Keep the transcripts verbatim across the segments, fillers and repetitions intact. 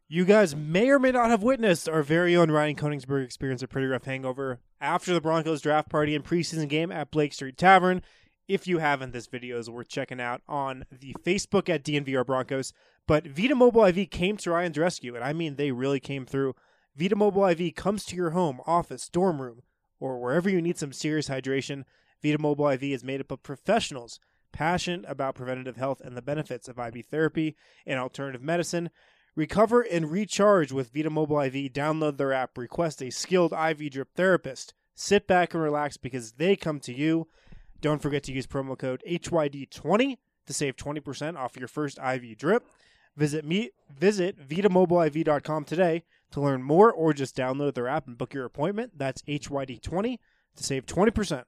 You guys may or may not have witnessed our very own Ryan Koenigsberg experience a pretty rough hangover after the Broncos draft party and preseason game at Blake Street Tavern. If you haven't, this video is worth checking out on the Facebook at D N V R Broncos. But Vita Mobile I V came to Ryan's rescue, and I mean they really came through. Vita Mobile I V comes to your home, office, dorm room, or wherever you need some serious hydration. Vita Mobile I V is made up of professionals passionate about preventative health and the benefits of I V therapy and alternative medicine. Recover and recharge with Vita Mobile I V. Download their app. Request a skilled I V drip therapist. Sit back and relax because they come to you. Don't forget to use promo code H Y D twenty to save twenty percent off your first I V drip. Visit me, visit Vita Mobile I V dot com today to learn more or just download their app and book your appointment. That's H Y D twenty to save twenty percent.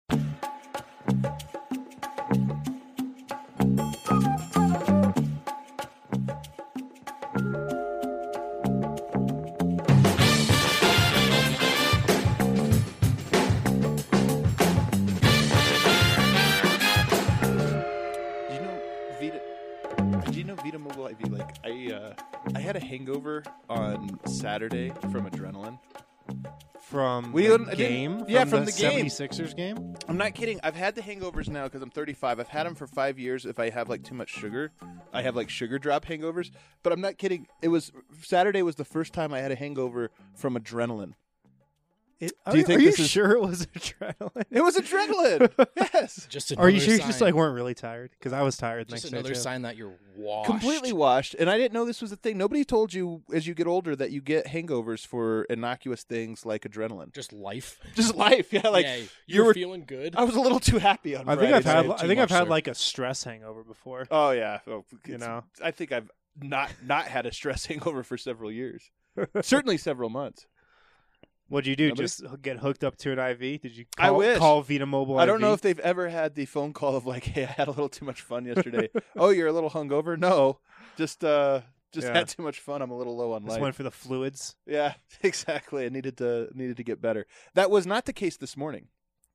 Hangover on Saturday from adrenaline. From we the game? From, yeah, from, from the, the game. seventy-sixers game? I'm not kidding. I've had the hangovers now because I'm thirty-five. I've had them for five years. If I have like too much sugar, I have like sugar drop hangovers. But I'm not kidding. It was Saturday was the first time I had a hangover from adrenaline. It, Do are you think are this you is sure it was adrenaline? It was adrenaline. Yes. Just Are you sure sign. you just like weren't really tired? Because I was tired. Just next another day too. sign that you're washed. Completely washed. And I didn't know this was a thing. Nobody told you as you get older that you get hangovers for innocuous things like adrenaline. Just life. Just life. Yeah, like yeah, you you were were feeling good. I was a little too happy on I think Friday I've had. night. I think I've much, had sir. like a stress hangover before. Oh yeah, oh, You it's- know? I think I've not not had a stress hangover for several years, certainly several months. What'd you do? Nobody? Just get hooked up to an I V? Did you I call, wish. call Vita Mobile I don't I V? know if they've ever had the phone call of like, "Hey, I had a little too much fun yesterday." Oh, you're a little hungover? No, just uh, just Yeah. had too much fun. I'm a little low on Just life. went for the fluids. Yeah, exactly. I needed to needed to get better. That was not the case this morning.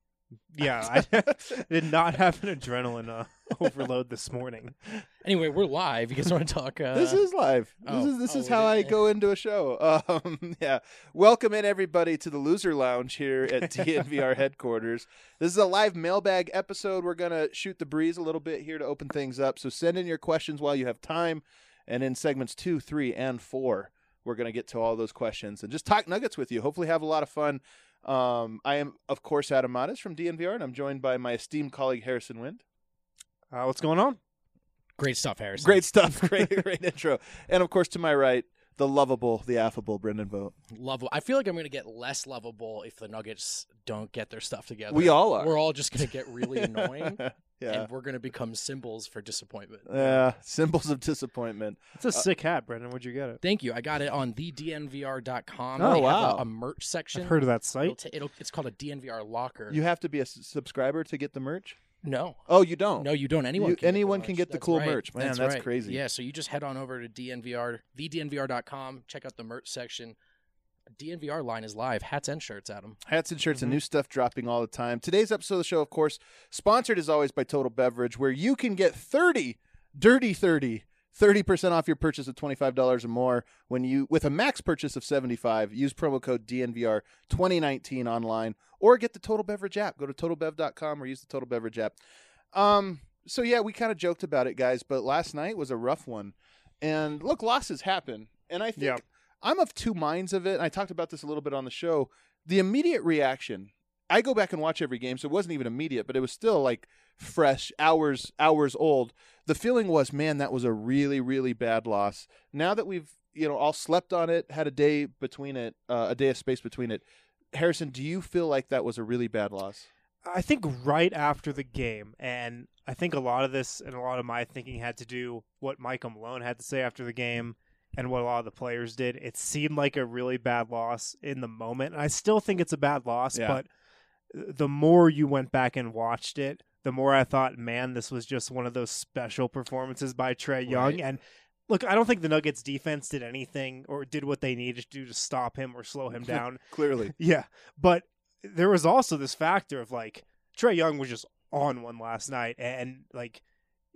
Yeah, I did not have an adrenaline uh, overload this morning. Anyway, we're live. You guys want to talk? Uh, This is live. oh, this is this oh, is we how I didn't- go into a show. Um, yeah. Welcome in everybody to the Loser Lounge here at D N V R headquarters. This is a live mailbag episode. We're gonna shoot the breeze a little bit here to open things up. So send in your questions while you have time, and in segments two, three, and four, we're gonna get to all those questions and just talk Nuggets with you. Hopefully, have a lot of fun. Um, I am, of course, Adam Matas from D N V R, and I'm joined by my esteemed colleague Harrison Wind. Uh, what's going on? Great stuff, Harrison. Great stuff. Great, great intro. And of course, to my right, the lovable, the affable Brendan Vogt. Lovable. I feel like I'm going to get less lovable if the Nuggets don't get their stuff together. We all are. We're all just going to get really annoying, Yeah. and we're going to become symbols for disappointment. Yeah. Symbols of disappointment. It's a sick hat, Brendan. Where'd you get it? Thank you. I got it on the D N V R dot com. Oh, they wow. have a, a merch section. I've heard of that It'll site. ta- it'll, it's called a D N V R locker. You have to be a s- subscriber to get the merch? no. Oh, you don't? No, you don't. Anyone You- can anyone get the can merch. get the That's cool right. merch. Man, that's right. crazy. Yeah, so you just head on over to D N V R, the D N V R dot com, check out the merch section. D N V R line is live. Hats and shirts, Adam. Hats and shirts Mm-hmm. and new stuff dropping all the time. Today's episode of the show, of course, sponsored as always by Total Beverage, where you can get thirty, dirty thirty, thirty percent off your purchase of twenty-five dollars or more when you, with a max purchase of seventy-five dollars. Use promo code D N V R twenty nineteen online, or get the Total Beverage app. Go to total bev dot com or use the Total Beverage app. Um, so yeah, we kind of joked about it, guys, but last night was a rough one. And look, losses happen. And I think Yeah. I'm of two minds of it. And I talked about this a little bit on the show. The immediate reaction, I go back and watch every game, so it wasn't even immediate, but it was still like fresh, hours, hours old. The feeling was, man, that was a really, really bad loss. Now that we've, you know, all slept on it, had a day between it, uh, a day of space between it. Harrison, do you feel like that was a really bad loss? I think right after the game, and I think a lot of this and a lot of my thinking had to do what Micah Malone had to say after the game and what a lot of the players did. It seemed like a really bad loss in the moment. And I still think it's a bad loss, Yeah. but the more you went back and watched it, the more I thought, man, this was just one of those special performances by Trae Young. Right. And look, I don't think the Nuggets defense did anything or did what they needed to do to stop him or slow him down. Clearly. Yeah, but there was also this factor of like Trae Young was just on one last night, and like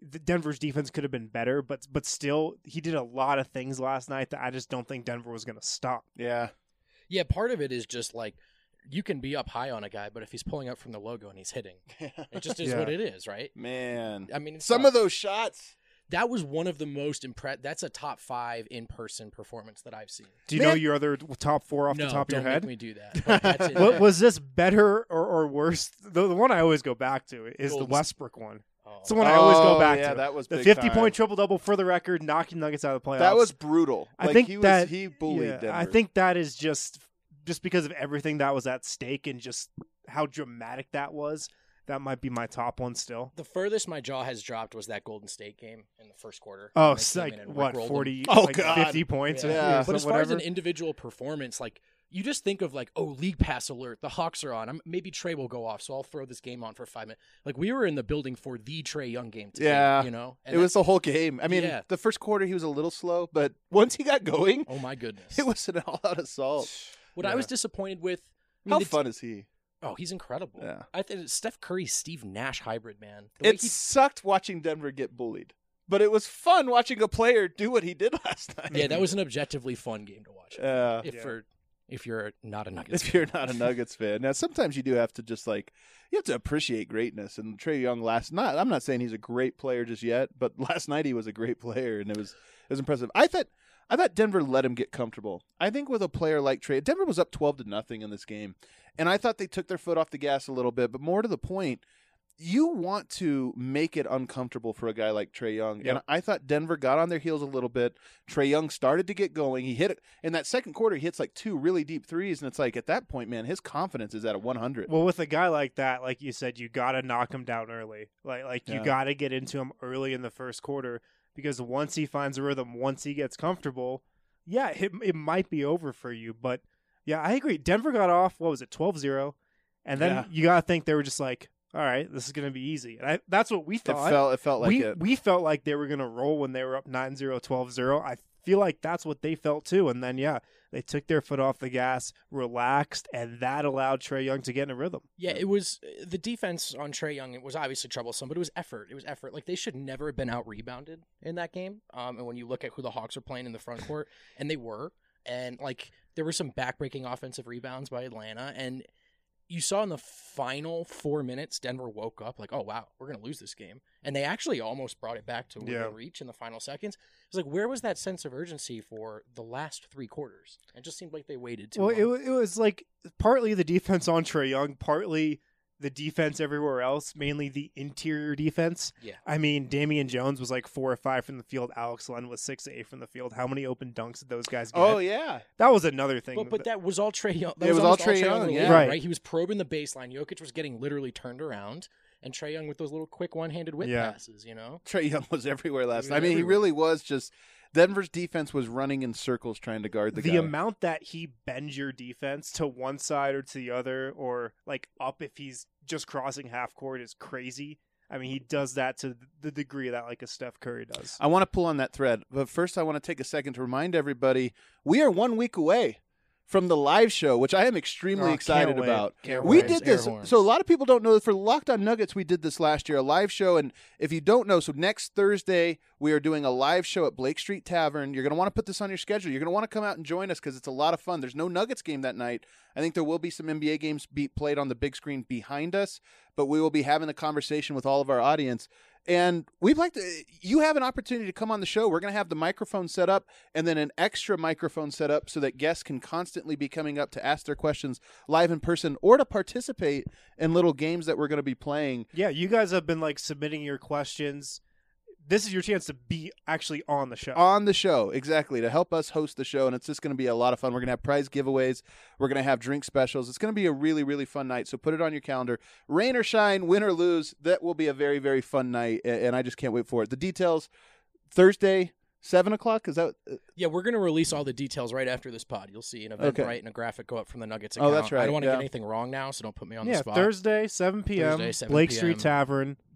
the Denver's defense could have been better, but but still, he did a lot of things last night that I just don't think Denver was going to stop. Yeah. Yeah, part of it is just like you can be up high on a guy, but if he's pulling up from the logo and he's hitting, it just is Yeah. what it is, right? Man. I mean, it's Some tough. of those shots. That was one of the most impressed. That's a top five in-person performance that I've seen. Do you Man. know your other top four off no, the top of don't your head? make me do that. But that's in What, there. was this better or, or worse? The, the one I always go back to is Golden the Westbrook one. Oh. It's the one I always go Oh, back yeah, to. that was The big fifty-point time. triple-double for the record, knocking Nuggets out of the playoffs. That was brutal. I like, think he was, that he bullied yeah, Denver. I think that is just just because of everything that was at stake and just how dramatic that was. That might be my top one still. The furthest my jaw has dropped was that Golden State game in the first quarter. Oh, when it's they came like in and what rickrolled them. forty? Oh, like God. fifty points. Yeah. or- Yeah. or But as some- far as whatever. an individual performance, like you just think of like, oh, league pass alert, the Hawks are on. I'm, maybe Trey will go off, so I'll throw this game on for five minutes. Like we were in the building for the Trey Young game today, Yeah. you know. it was the whole game. I mean, Yeah. the first quarter he was a little slow, but once he got going, oh my goodness. it was an all-out assault. What I Yeah. was disappointed with. I mean, How the- fun is he? Oh, he's incredible. Yeah. I think Steph Curry, Steve Nash hybrid, man. The way It he- sucked watching Denver get bullied, but it was fun watching a player do what he did last night. yeah, that was an objectively fun game to watch. Yeah. if Yeah. for if you're not a Nuggets If fan. you're not a Nuggets fan, now sometimes you do have to just like you have to appreciate greatness. And Trey Young last night, I'm not saying he's a great player just yet, but last night he was a great player, and it was it was impressive. I thought I thought Denver let him get comfortable. I think with a player like Trey, Denver was up twelve to nothing in this game, and I thought they took their foot off the gas a little bit. But more to the point, you want to make it uncomfortable for a guy like Trey Young. And Yep. I thought Denver got on their heels a little bit. Trey Young started to get going. He hit it in that second quarter. He hits like two really deep threes, and it's like at that point, man, his confidence is at a one hundred. Well, with a guy like that, like you said, you got to knock him down early. Like like you Yeah. got to get into him early in the first quarter because once he finds a rhythm, once he gets comfortable, yeah, it, it might be over for you. But yeah, I agree. Denver got off, what was it, twelve zero? And then Yeah. you got to think they were just like, all right, this is going to be easy. And I, that's what we It thought. felt it felt like we it. we felt like they were going to roll when they were up nine zero, twelve zero. I feel like that's what they felt too. And then, yeah, they took their foot off the gas, relaxed, and that allowed Trey Young to get in a rhythm. Yeah, it was the defense on Trey Young. It was obviously troublesome, but it was effort. It was effort. Like they should never have been out rebounded in that game. Um, and when you look at who the Hawks are playing in the front court, and they were, and like there were some backbreaking offensive rebounds by Atlanta, and you saw in the final four minutes, Denver woke up like, oh wow, we're gonna lose this game, and they actually almost brought it back to within Yeah. reach in the final seconds. It was like, where was that sense of urgency for the last three quarters? It just seemed like they waited too Well, long. it, wa- it was like partly the defense on Trey Young, partly the defense everywhere else, mainly the interior defense. Yeah. I mean, Damian Jones was like four or five from the field. Alex Len was six or eight from the field. How many open dunks did those guys get? Oh yeah, That was another thing. But, but that was all Trey Young. That It was all almost Trae Young, in the yeah. league, Right. right. He was probing the baseline. Jokic was getting literally turned around, and Trey Young with those little quick one-handed whip Yeah. passes. You know, Trey Young was everywhere last He night. I was mean, he everywhere. really was just. Denver's defense was running in circles trying to guard the, the guy. amount that he bends your defense to one side or to the other, or like up if he's just crossing half court, is crazy. I mean, he does that to the degree that like a Steph Curry does. I want to pull on that thread, but first I want to take a second to remind everybody we are one week away from the live show, which I am extremely Oh, can't excited wait. about. Can't We wait. did Air this. horns. So a lot of people don't know that for Locked On Nuggets, we did this last year, a live show. And if you don't know, so next Thursday, we are doing a live show at Blake Street Tavern. You're going to want to put this on your schedule. You're going to want to come out and join us because it's a lot of fun. There's no Nuggets game that night. I think there will be some N B A games be played on the big screen behind us, but we will be having a conversation with all of our audience. And we'd like to, you have an opportunity to come on the show. We're going to have the microphone set up and then an extra microphone set up so that guests can constantly be coming up to ask their questions live in person or to participate in little games that we're going to be playing. Yeah, you guys have been like submitting your questions. This is your chance to be actually on the show. On the show, exactly, to help us host the show. And it's just going to be a lot of fun. We're going to have prize giveaways. We're going to have drink specials. It's going to be a really, really fun night. So put it on your calendar. Rain or shine, win or lose, that will be a very, very fun night. a- And I just can't wait for it. The details, Thursday, seven o'clock? Is that? uh, yeah, we're gonna release all the details right after this pod. You'll see an event Okay. right and a graphic go up from the Nuggets Oh, account. that's right, I don't want to yeah. get anything wrong now, so don't put me on yeah, the spot. Thursday, seven p.m. Thursday, seven Blake p.m. Street Tavern.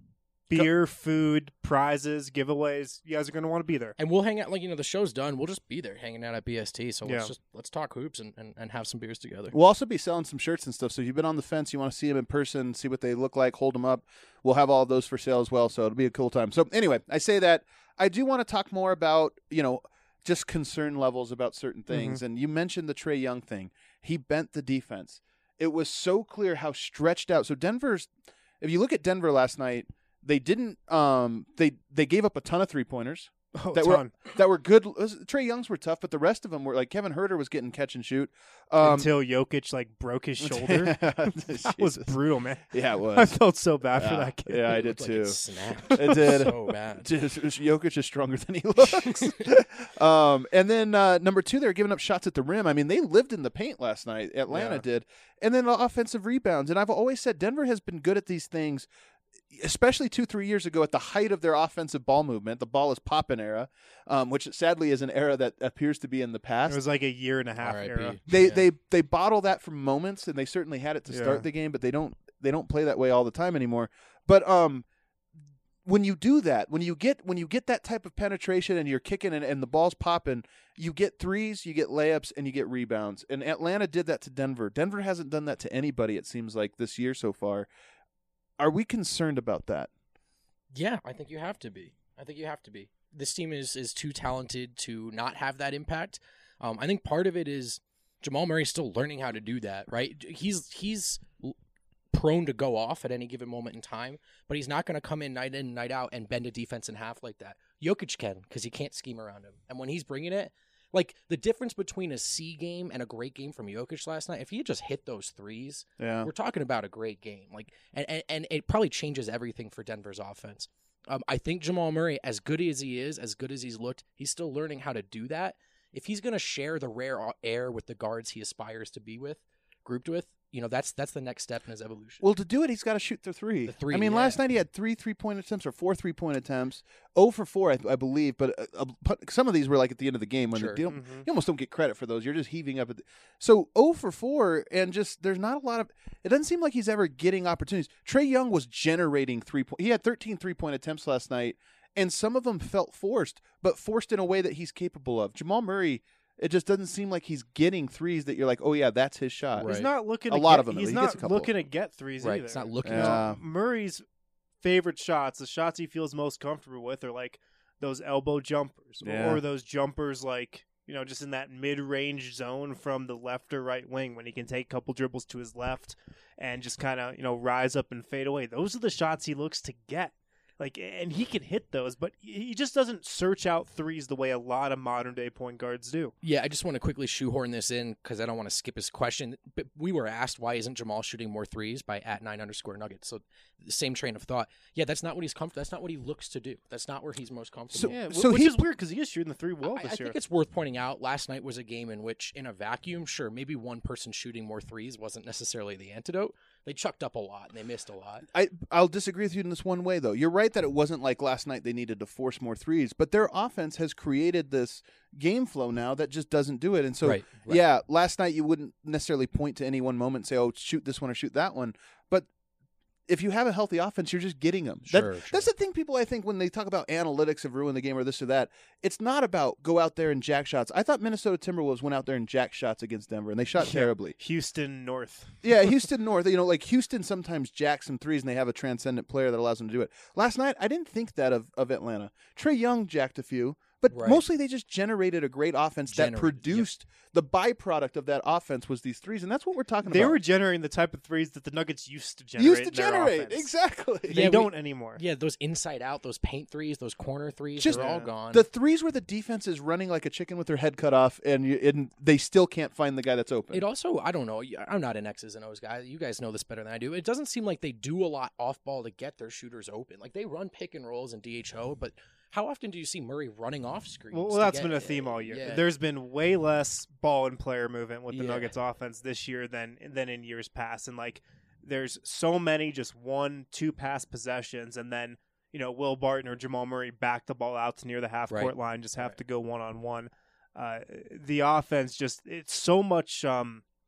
beer, food, prizes, giveaways. You guys are going to want to be there. And we'll hang out, like, you know, the show's done. We'll just be there hanging out at B S T. So Yeah. let's just let's talk hoops and, and, and have some beers together. We'll also be selling some shirts and stuff. So if you've been on the fence, you want to see them in person, see what they look like, hold them up. We'll have all of those for sale as well. So it'll be a cool time. So anyway, I say that. I do want to talk more about, you know, just concern levels about certain things. Mm-hmm. And you mentioned the Trae Young thing. He bent the defense. It was so clear how stretched out. So Denver's, if you look at Denver last night, they didn't. Um, they they gave up a ton of three pointers Oh, that ton. were that were good. Trae Young's were tough, but the rest of them were like Kevin Huerter was getting catch and shoot um, until Jokic like broke his shoulder. That was brutal, man. Yeah, it was. I felt so bad yeah. for that kid. Yeah, I It did looked like too. it snapped. It did. So bad. Just, Jokic is stronger than he looks. um, and then uh, number two, they're giving up shots at the rim. I mean, they lived in the paint last night. Atlanta Yeah. did. And then offensive rebounds. And I've always said Denver has been good at these things, especially two, three years ago at the height of their offensive ball movement, the ball is poppin' era, um, which sadly is an era that appears to be in the past. It was like a year and a half R I P. era. They Yeah. they they bottle that for moments, and they certainly had it to start Yeah. the game, but they don't they don't play that way all the time anymore. But um, when you do that, when you get when you get that type of penetration and you're kicking and, and the ball's popping, you get threes, you get layups, and you get rebounds. And Atlanta did that to Denver. Denver hasn't done that to anybody, it seems like, this year so far. Are we concerned about that? Yeah, I think you have to be. I think you have to be. This team is is too talented to not have that impact. Um, I think part of it is Jamal Murray's still learning how to do that, right? He's he's prone to go off at any given moment in time, but he's not going to come in night in, night out and bend a defense in half like that. Jokic can, because he can't scheme around him. And when he's bringing it, like the difference between a C game and a great game from Jokic last night, if he had just hit those threes, Yeah. we're talking about a great game. Like, and, and, and it probably changes everything for Denver's offense. Um, I think Jamal Murray, as good as he is, as good as he's looked, he's still learning how to do that. If he's going to share the rare air with the guards he aspires to be with, grouped with, you know, that's that's the next step in his evolution. Well, to do it, he's got to shoot the three. The three, I mean, yeah. last night he had three three-point attempts or four three-point attempts. oh for four, I, I believe. But uh, uh, but some of these were like at the end of the game when Sure. the, you, don't, Mhm. you almost don't get credit for those. You're just heaving up. At the, so oh for four, and just there's not a lot of. It doesn't seem like he's ever getting opportunities. Trae Young was generating three point. He had thirteen three-point attempts last night, and some of them felt forced, but forced in a way that he's capable of. Jamal Murray. It just doesn't seem like he's getting threes that you're like, oh yeah, that's his shot. Right. He's not looking A to lot get, of them, He's he not gets a couple. looking to get threes Right, either. it's not looking. Yeah. Murray's favorite shots, the shots he feels most comfortable with, are like those elbow jumpers, or- Yeah. or those jumpers like, you know, just in that mid-range zone from the left or right wing when he can take a couple dribbles to his left and just kind of, you know, rise up and fade away. Those are the shots he looks to get. Like, and he can hit those, but he just doesn't search out threes the way a lot of modern day point guards do. Yeah, I just want to quickly shoehorn this in because I don't want to skip his question. But we were asked, why isn't Jamal shooting more threes by at nine underscore Nuggets? So the same train of thought. Yeah, that's not what he's comfortable. That's not what he looks to do. That's not where he's most comfortable. So- Yeah, so which he- is weird because he is shooting the three well I, this I year. think it's worth pointing out. Last night was a game in which, in a vacuum, sure, maybe one person shooting more threes wasn't necessarily the antidote. They chucked up a lot and they missed a lot. I I'll disagree with you in this one way though. You're right that it wasn't like last night they needed to force more threes, but their offense has created this game flow now that just doesn't do it. And so Right, right. yeah, last night you wouldn't necessarily point to any one moment and say, "Oh, shoot this one or shoot that one." But if you have a healthy offense, you're just getting them. Sure, that, sure. That's the thing people, I think, when they talk about analytics have ruined the game or this or that, it's not about go out there and jack shots. I thought Minnesota Timberwolves went out there and jack shots against Denver, and they shot Yeah. terribly. Houston North. Yeah, Houston North. You know, like Houston sometimes jacks some threes, and they have a transcendent player that allows them to do it. Last night, I didn't think that of, of Atlanta. Trae Young jacked a few, but Right. mostly they just generated a great offense that Generated, produced the byproduct of that offense was these threes, and that's what we're talking They about. were generating the type of threes that the Nuggets used to generate. used to in their generate offense. exactly. They Yeah, we- don't anymore. Yeah, those inside out, those paint threes, those corner threes, Just- they're all Yeah. gone. The threes where the defense is running like a chicken with their head cut off, and, you, and they still can't find the guy that's open. It also, I don't know, I'm not an X's and O's guy. You guys know this better than I do. It doesn't seem like they do a lot off ball to get their shooters open. Like they run pick and rolls and D H O, but how often do you see Murray running off screens? Well, to well that's get- been a theme all year. Yeah. There's been way less ball and player movement with the Yeah. Nuggets offense this year than than in years past. And like, there's so many just one, two pass possessions, and then you know Will Barton or Jamal Murray back the ball out to near the half court Right. line, just have Right. to go one on one. The offense just it's so much. Um,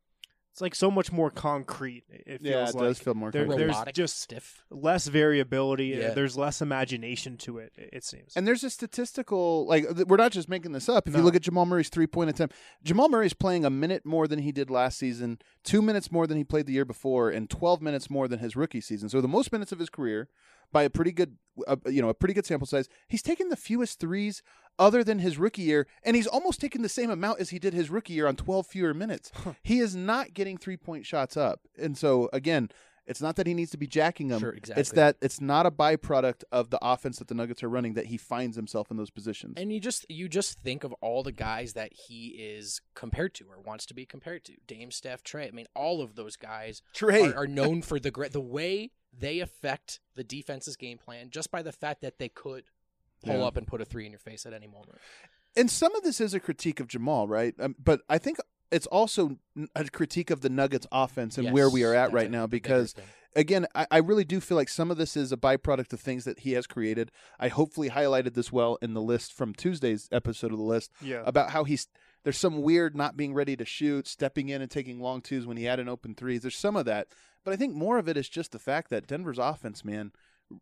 it's like so much more concrete. It feels Yeah, it like does feel more there, concrete. there's Robotic, just stiff. less variability. Yeah. There's less imagination to it. It seems. And there's a statistical, like, th- we're not just making this up. If you No. look at Jamal Murray's three-point attempt, Jamal Murray's playing a minute more than he did last season, two minutes more than he played the year before, and twelve minutes more than his rookie season. So the most minutes of his career by a pretty good, uh, you know, a pretty good sample size. He's taken the fewest threes other than his rookie year, and he's almost taken the same amount as he did his rookie year on twelve fewer minutes. He is not getting three-point shots up. And so, again, it's not that he needs to be jacking them. Sure, exactly. It's that it's not a byproduct of the offense that the Nuggets are running that he finds himself in those positions. And you just you just think of all the guys that he is compared to or wants to be compared to. Dame, Steph, Trey. I mean, all of those guys Trey. are, are known for the great the way they affect the defense's game plan just by the fact that they could pull Yeah. up and put a three in your face at any moment. And some of this is a critique of Jamal, right? Um, but I think it's also a critique of the Nuggets offense and Yes, where we are at that's right a- now the bigger because thing. again, I, I really do feel like some of this is a byproduct of things that he has created. I hopefully highlighted this well in the list from Tuesday's episode of the list yeah. about how he's there's some weird not being ready to shoot, stepping in and taking long twos when he had an open threes. There's some of that, but I think more of it is just the fact that Denver's offense, man,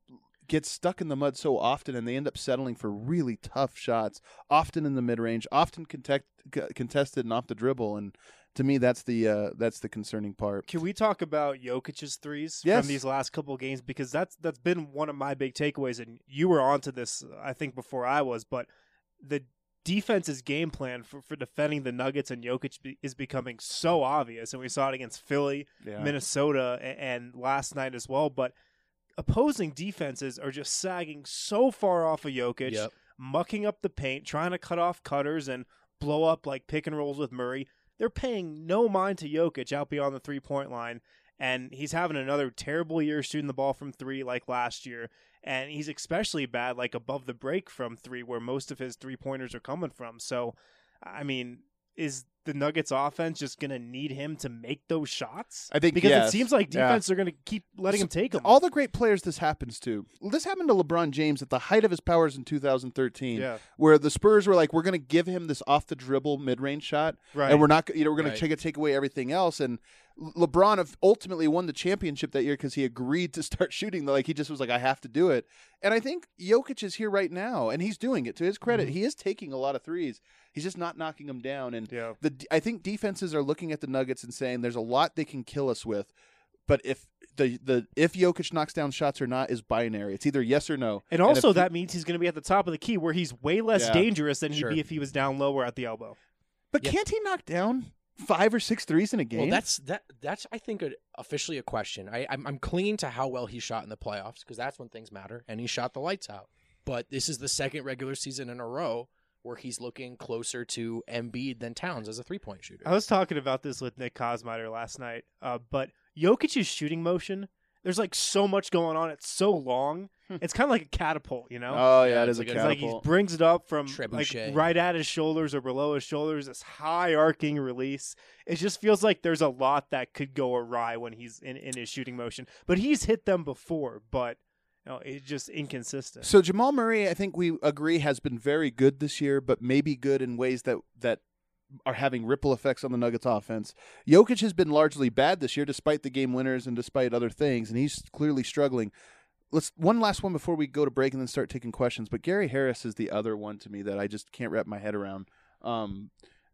gets stuck in the mud so often, and they end up settling for really tough shots, often in the mid range, often contest, contested and off the dribble. And to me, that's the uh, that's the concerning part. Can we talk about Jokic's threes Yes. from these last couple of games? Because that's that's been one of my big takeaways, and you were onto this, I think, before I was. But the defense's game plan for, for defending the Nuggets and Jokic be, is becoming so obvious, and we saw it against Philly, Yeah. Minnesota, and, and last night as well. But opposing defenses are just sagging so far off of Jokic, Yep. mucking up the paint, trying to cut off cutters and blow up like pick and rolls with Murray. They're paying no mind to Jokic out beyond the three-point line, and he's having another terrible year shooting the ball from three like last year, and he's especially bad like above the break from three where most of his three-pointers are coming from. So, I mean, is the Nuggets offense just going to need him to make those shots? I think Because yes. it seems like Yeah. defense are going to keep letting So, him take them. All the great players this happens to. This happened to LeBron James at the height of his powers in two thousand thirteen, Yeah, where the Spurs were like, "We're going to give him this off the dribble mid range shot, right. and we're not, you know, we're going Right. to take take away everything else." And Le- LeBron ultimately won the championship that year because he agreed to start shooting. Like he just was like, "I have to do it." And I think Jokic is here right now, and he's doing it. To his credit, Mhm. he is taking a lot of threes. He's just not knocking them down. And Yeah. the I think defenses are looking at the Nuggets and saying, "There's a lot they can kill us with." But if the the if Jokic knocks down shots or not is binary. It's either yes or no. And if also, he- that means he's going to be at the top of the key, where he's way less Yeah. dangerous than he'd Sure. be if he was down lower at the elbow. But Yeah. can't he knock down five or six threes in a game? Well, that's that. That's I think a, officially a question. I, I'm I'm clinging to how well he shot in the playoffs because that's when things matter, and he shot the lights out. But this is the second regular season in a row where he's looking closer to Embiid than Towns as a three point shooter. I was talking about this with Nick Kosmider last night, uh, but Jokic's shooting motion, there's like so much going on. It's so long. It's kind of like a catapult, you know? oh yeah, Yeah, it it's is like a a- It's like he catapult. brings it up from like Trebuchet. right at his shoulders or below his shoulders, this high arcing release. It just feels like there's a lot that could go awry when he's in, in his shooting motion. But he's hit them before, but you know, it's just inconsistent. So Jamal Murray, I think we agree, has been very good this year, but maybe good in ways that that are having ripple effects on the Nuggets offense. Jokic has been largely bad this year, despite the game winners and despite other things, and he's clearly struggling. Let's one last one before we go to break and then start taking questions. But Gary Harris is the other one to me that I just can't wrap my head around. Um,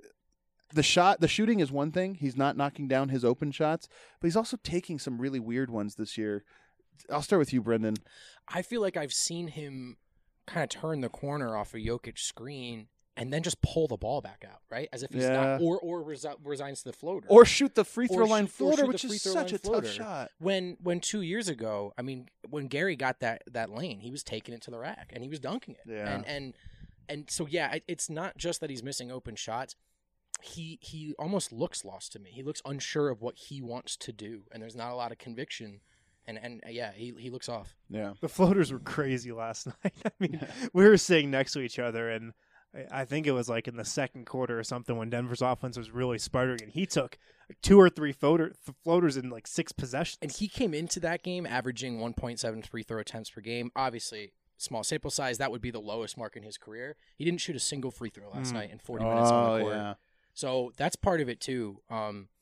the shot, the shooting is one thing. He's not knocking down his open shots, but he's also taking some really weird ones this year. I'll start with you, Brendan. I feel like I've seen him kind of turn the corner off a Jokic screen and then just pull the ball back out, right? As if he's Yeah. not, or or resi- resigns to the floater. Or shoot the free Or throw line shoot- or floater, shoot the which free is throw such line a floater. tough shot. when when two years ago, I mean, when Gary got that that lane, he was taking it to the rack and he was dunking it. Yeah. And and and so yeah, it, it's not just that he's missing open shots. He he almost looks lost to me. He looks unsure of what he wants to do, and there's not a lot of conviction. And and uh, yeah, he he looks off. Yeah. The floaters were crazy last night. I mean, we were sitting next to each other, and I- I think it was like in the second quarter or something when Denver's offense was really sputtering, and he took like two or three floater, th- floaters in like six possessions. And he came into that game averaging one point seven free throw attempts per game. Obviously, small sample size, that would be the lowest mark in his career. He didn't shoot a single free throw last Mm. night in forty minutes on Oh the court. yeah. So that's part of it too. Um,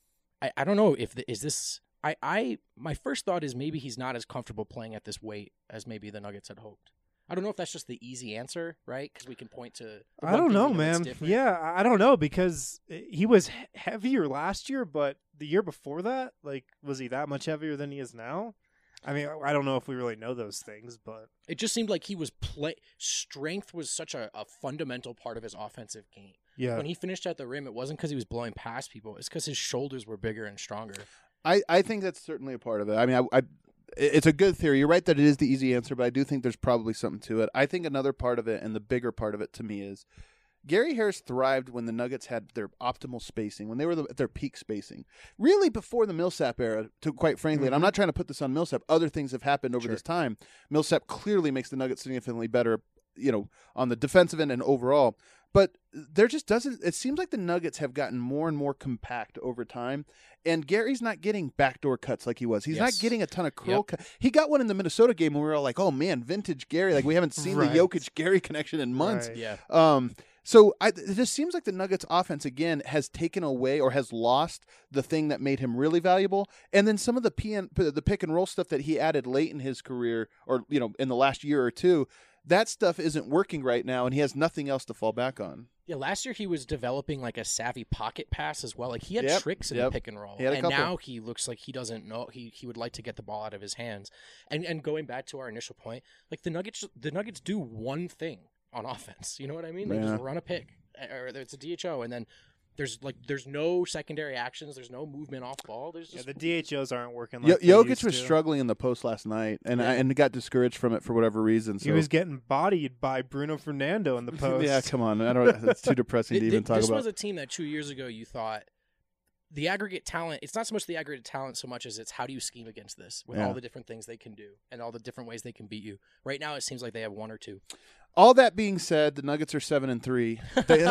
I, I don't know if the, is this. I, I my first thought is maybe he's not as comfortable playing at this weight as maybe the Nuggets had hoped. I don't know if that's just the easy answer, right? Because we can point to. The I one don't thing know, we that's man. different. Yeah, I I don't know because he was he- heavier last year, but the year before that, like, was he that much heavier than he is now? I mean, I don't know if we really know those things, but It just seemed like he was play. Strength was such a, a fundamental part of his offensive game. yeah, When he finished at the rim, it wasn't because he was blowing past people. It's because his shoulders were bigger and stronger. I, I think that's certainly a part of it. I mean, I, I, it's a good theory. You're right that it is the easy answer, but I do think there's probably something to it. I think another part of it, and the bigger part of it to me, is Gary Harris thrived when the Nuggets had their optimal spacing, when they were the, at their peak spacing. Really before the Millsap era, to, quite frankly, and I'm not trying to put this on Millsap. Other things have happened over Sure. this time. Millsap clearly makes the Nuggets significantly better, you know, on the defensive end and overall. But there just doesn't – it seems like the Nuggets have gotten more and more compact over time, and Gary's not getting backdoor cuts like he was. He's Yes. not getting a ton of curl Yep. cut. He got one in the Minnesota game, and we were all like, oh, man, vintage Gary. Like, we haven't seen Right. the Jokic-Gary connection in months. Right. Yeah. Um, so I, it just seems like the Nuggets offense again has taken away or has lost the thing that made him really valuable. And then some of the P N, the pick and roll stuff that he added late in his career or, you know, in the last year or two, that stuff isn't working right now and he has nothing else to fall back on. Yeah, last year he was developing like a savvy pocket pass as well. Like he had Yep, tricks in yep. the pick and roll, He had a and couple. now he looks like he doesn't know. He he would like to get the ball out of his hands. And and going back to our initial point, like the Nuggets, the Nuggets do one thing on offense. You know what I mean? They Yeah. just run a pick, or it's a D H O, and then there's like there's no secondary actions. There's no movement off ball. There's yeah, just the D H Os aren't working. Yo- Like they Jokic used was to. struggling in the post last night and Yeah. I, and got discouraged from it for whatever reason. So He was getting bodied by Bruno Fernando in the post. yeah, come on. I don't. It's too depressing to Th- even th- talk this about. was a team that two years ago you thought the aggregate talent. It's not so much the aggregate talent so much as it's how do you scheme against this with Yeah. all the different things they can do and all the different ways they can beat you. Right now, it seems like they have one or two. All that being said, the Nuggets are seven and three. They,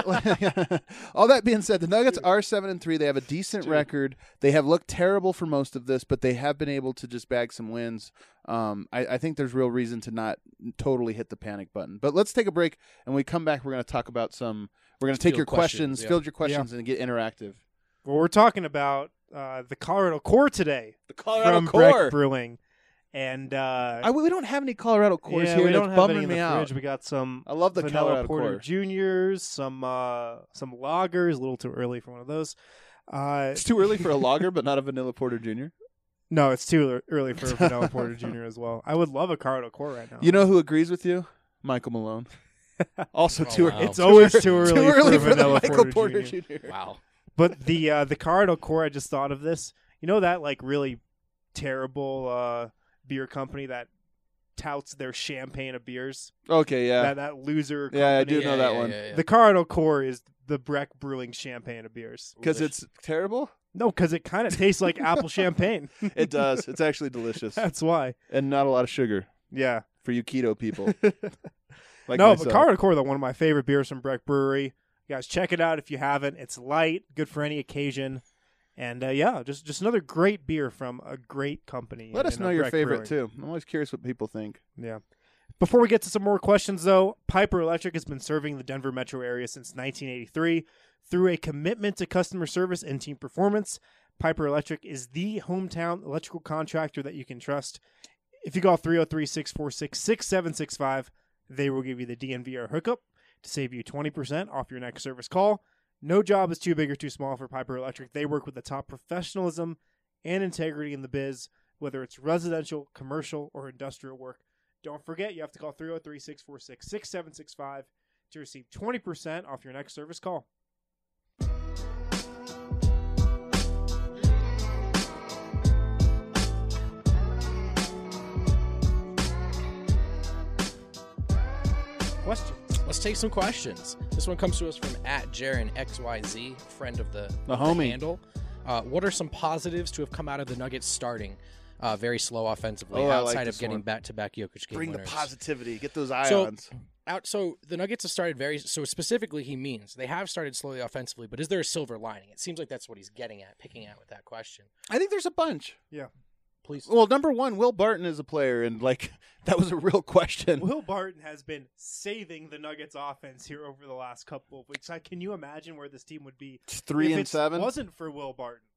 all that being said, the Nuggets are seven and three. They have a decent Dude. record. They have looked terrible for most of this, but they have been able to just bag some wins. Um, I, I think there's real reason to not totally hit the panic button. But let's take a break, and when we come back, we're going to talk about some. We're going to take Field your questions, questions, yeah. field your questions, and get interactive. Well, we're talking about uh, the Colorado Core today The from Breck Brewing, and uh, I, we don't have any Colorado cores yeah, here. we and don't it's have bumming any in me the out. fridge. We got some I love the vanilla Colorado Porter core. Juniors, some uh, some lagers. A little too early for one of those. Uh, It's too early for a lager, but not a vanilla porter junior. no, it's too ear- early for a vanilla Porter Junior as well. I would love a Colorado Core right now. You know who agrees with you? Michael Malone. Also, Oh, too wow. early. It's always too early, too early for, for, a the vanilla Michael Porter, Porter Junior. Junior Wow. But the uh, the Colorado Core, I just thought of this. You know that like really terrible uh, beer company that touts their champagne of beers. Okay, yeah. That that loser. Company? Yeah, I do know Yeah, that yeah, one. yeah, yeah. The Colorado Core is the Breck Brewing champagne of beers. Because Delicious. it's terrible? No, because it kind of tastes like apple champagne. It does. It's actually delicious. That's why. And not a lot of sugar Yeah. for you keto people. Like no, myself. but Colorado Core, though, one of my favorite beers from Breck Brewery. You guys, check it out if you haven't. It's light, good for any occasion. And uh, yeah, just just another great beer from a great company. Let in- us in, know uh, your Breck favorite, Brewing. too. I'm always curious what people think. Yeah. Before we get to some more questions, though, Piper Electric has been serving the Denver metro area since nineteen eighty-three. Through a commitment to customer service and team performance, Piper Electric is the hometown electrical contractor that you can trust. If you call three oh three, six four six, six seven six five, they will give you the D N V R hookup to save you twenty percent off your next service call. No job is too big or too small for Piper Electric. They work with the top professionalism and integrity in the biz, whether it's residential, commercial, or industrial work. Don't forget, you have to call three oh three, six four six, six seven six five to receive twenty percent off your next service call. Questions. Let's take some questions. This one comes to us from at Jaren X Y Z, friend of the, The of homie. handle. Uh, what are some positives to have come out of the Nuggets starting uh, very slow offensively Oh, I like outside this of getting one. back-to-back Jokic game Bring winners? the positivity. Get those So- ions. Out, so the Nuggets have started very so specifically. He means they have started slowly offensively, but is there a silver lining? It seems like that's what he's getting at, picking at with that question. I think there's a bunch. Please. Well, number one, Will Barton is a player, and like that was a real question. Will Barton has been saving the Nuggets offense here over the last couple of weeks. I, can you imagine where this team would be It's three if and it seven. wasn't for Will Barton?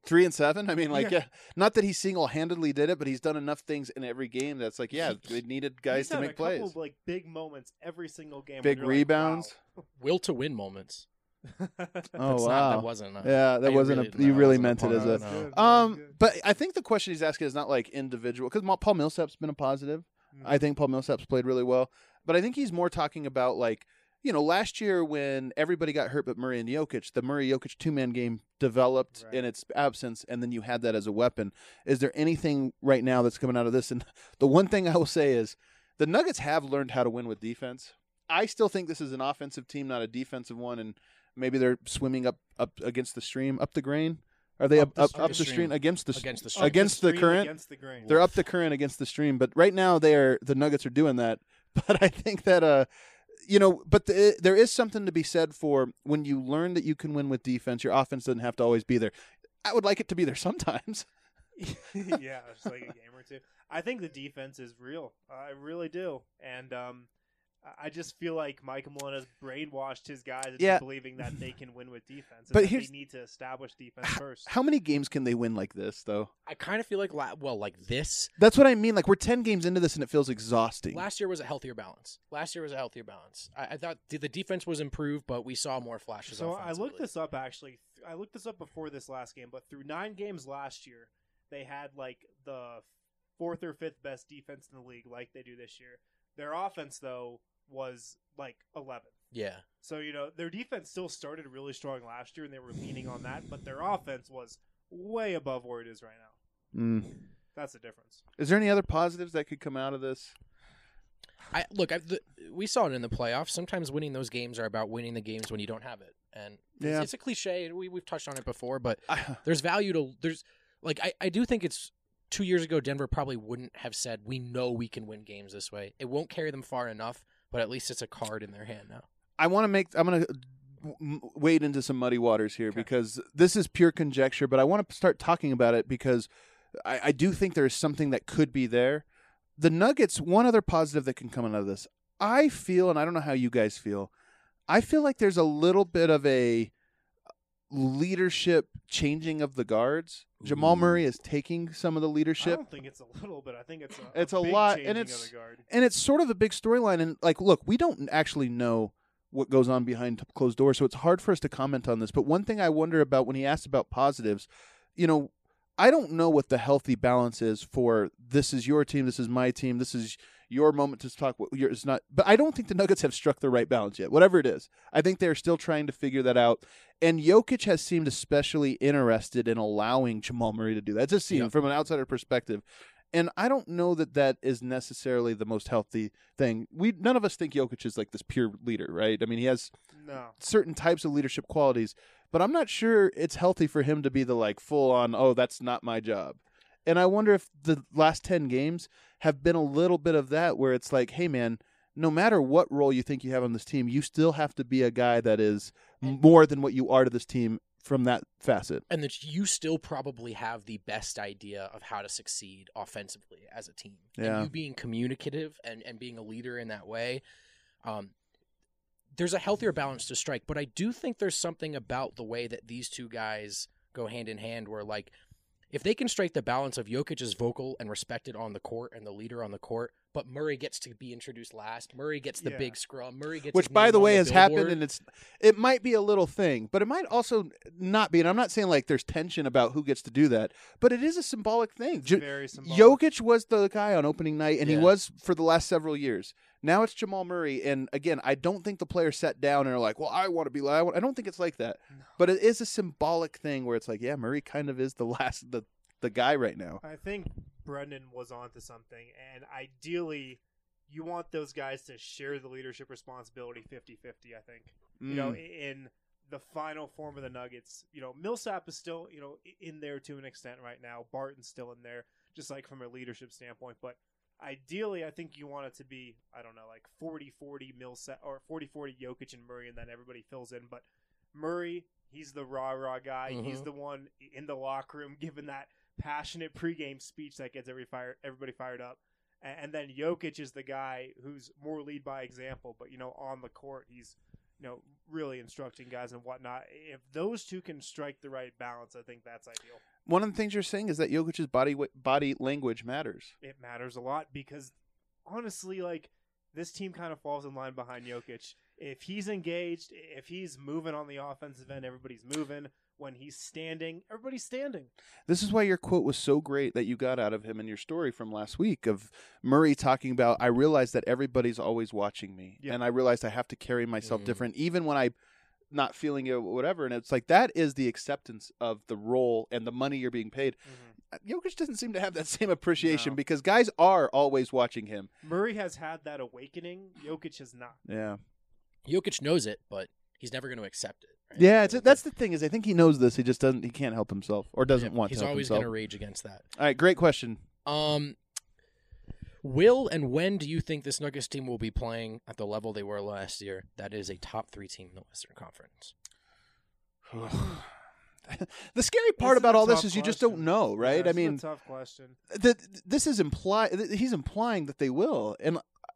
Three and seven. I mean, like, Yeah. yeah. Not that he single-handedly did it, but he's done enough things in every game that's like, yeah, they needed guys He's to had make a couple plays. of, like big moments every single game. Big where you're rebounds. Like, Will to win moments. Oh That's wow, not, that wasn't. A, yeah, that I wasn't. really- a, no, you that really wasn't a meant it pun. as Wow, a. that was good. Um, Good. but I think the question he's asking is not like individual because Paul Millsap's been a positive. wow. I think Paul Millsap's played really well, but I think he's more talking about like you know last year when everybody got hurt but Murray and Jokic, the Murray Jokic two man game developed Right. in its absence, and then you had that as a weapon. Is there anything right now that's coming out of this? And the one thing I will say is the Nuggets have learned how to win with defense. I still think this is an offensive team, not a defensive one, and maybe they're swimming up up against the stream, up the grain. Are they up Up the up, stream. up the stream against the Against the Up stream. against the stream, current? Against the grain. They're up the current against the stream, but right now they are the Nuggets are doing that. But I think that uh, you know, but the, there is something to be said for when you learn that you can win with defense. Your offense doesn't have to always be there. I would like it to be there sometimes. yeah, it's like a game or two. I think the defense is real. I really do, and um, I just feel like Mike Malone has brainwashed his guys into Yeah. believing that they can win with defense. And But that here's- they need to establish defense H- first. How many games can they win like this, though? I kind of feel like la- well, like this. That's what I mean. Like we're ten games into this, and it feels exhausting. Last year was a healthier balance. Last year was a healthier balance. I, I thought the, the defense was improved, but we saw more flashes. So I offensively. looked this up actually. I looked this up before this last game, but through nine games last year, they had like the fourth or fifth best defense in the league, like they do this year. Their offense, though, was like eleventh. Yeah, So, you know, their defense still started really strong last year, and they were leaning on that, but their offense was way above where it is right now. Mm. That's the difference. Is there any other positives that could come out of this? I look. I, the, we saw it in the playoffs. Sometimes winning those games are about winning the games when you don't have it, and it's, Yeah. it's a cliche. We we've touched on it before, but I, there's value to there's like I, I do think it's two years ago Denver probably wouldn't have said we know we can win games this way. It won't carry them far enough, but at least it's a card in their hand now. I want to make. I'm going to wade into some muddy waters here Okay. because this is pure conjecture, but I want to start talking about it because I, I do think there is something that could be there. The Nuggets. One other positive that can come out of this, I feel, and I don't know how you guys feel. I feel like there's a little bit of a leadership changing of the guards. Jamal Ooh. Murray is taking some of the I leadership. don't think it's a little bit. I think it's a, It's a big lot, changing and of it's- the guard. And it's sort of a big storyline. And, like, look, we don't actually know what goes on behind closed doors, so it's hard for us to comment on this. But one thing I wonder about when he asked about positives, you know, I don't know what the healthy balance is for this is your team, this is my team, this is your moment to talk. It's not, but I don't think the Nuggets have struck the right balance yet, whatever it is. I think they're still trying to figure that out. And Jokic has seemed especially interested in allowing Jamal Murray to do that. It just seems Yeah. from an outsider perspective. And I don't know that that is necessarily the most healthy thing. We none of us think Jokic is like this pure leader, right? I mean, he has No. certain types of leadership qualities, but I'm not sure it's healthy for him to be the like full on, oh, that's not my job. And I wonder if the last ten games have been a little bit of that where it's like, hey man, no matter what role you think you have on this team, you still have to be a guy that is more than what you are to this team from that facet. And that you still probably have the best idea of how to succeed offensively as a team. Yeah. And you being communicative and, and being a leader in that way, um, there's a healthier balance to strike. But I do think there's something about the way that these two guys go hand in hand where, like, if they can strike the balance of Jokic is vocal and respected on the court and the leader on the court, but Murray gets to be introduced last. Murray gets the Yeah. big scrum. Murray gets Which, his by name the on way, has happened, billboard. and it's it might be a little thing, but it might also not be. And I'm not saying like there's tension about who gets to do that, but it is a symbolic thing. It's J- very symbolic. Jokic was the guy on opening night, and he Yeah. was for the last several years. Now it's Jamal Murray, and again, I don't think the players sat down and are like, "Well, I want to be." I, want, I don't think it's like that, No. but it is a symbolic thing where it's like, yeah, Murray kind of is the last the the guy right now. I think Brendan was onto something, and ideally, you want those guys to share the leadership responsibility fifty-fifty, I think. You know, Mm. in the final form of the Nuggets, you know, Millsap is still, you know, in there to an extent right now. Barton's still in there, just like from a leadership standpoint. But ideally, I think you want it to be, I don't know, like forty-forty Millsap or forty-forty Jokic and Murray, and then everybody fills in. But Murray, he's the rah-rah guy. He's Mhm. the one in the locker room giving that passionate pregame speech that gets every fire, everybody fired up. And, and then Jokic is the guy who's more lead by example, but, you know, on the court, he's, you know, really instructing guys and whatnot. If those two can strike the right balance, I think that's ideal. One of the things you're saying is that Jokic's body body language matters. It matters a lot because, honestly, like, this team kind of falls in line behind Jokic. If he's engaged, if he's moving on the offensive end, everybody's moving. When he's standing, everybody's standing. This is why your quote was so great that you got out of him in your story from last week of Murray talking about, I realized that everybody's always watching me. Yeah. And I realized I have to carry myself Mm. different, even when I'm not feeling it, whatever. And it's like, that is the acceptance of the role and the money you're being paid. Mm-hmm. Jokic doesn't seem to have that same appreciation No. because guys are always watching him. Murray has had that awakening. Jokic has not. Yeah. Jokic knows it, but he's never going to accept it. Right? Yeah, it's, that's the thing is I think he knows this. He just doesn't, he can't help himself or doesn't Yeah, want He's to help always himself. going to rage against that. All right, great question. Um, will and when do you think this Nuggets team will be playing at the level they were last year? That is a top three team in the Western Conference. The scary part This is about a all this tough is you just question. don't know, right? Yeah, I this is mean, a tough question. that this is imply th- he's implying that they will, and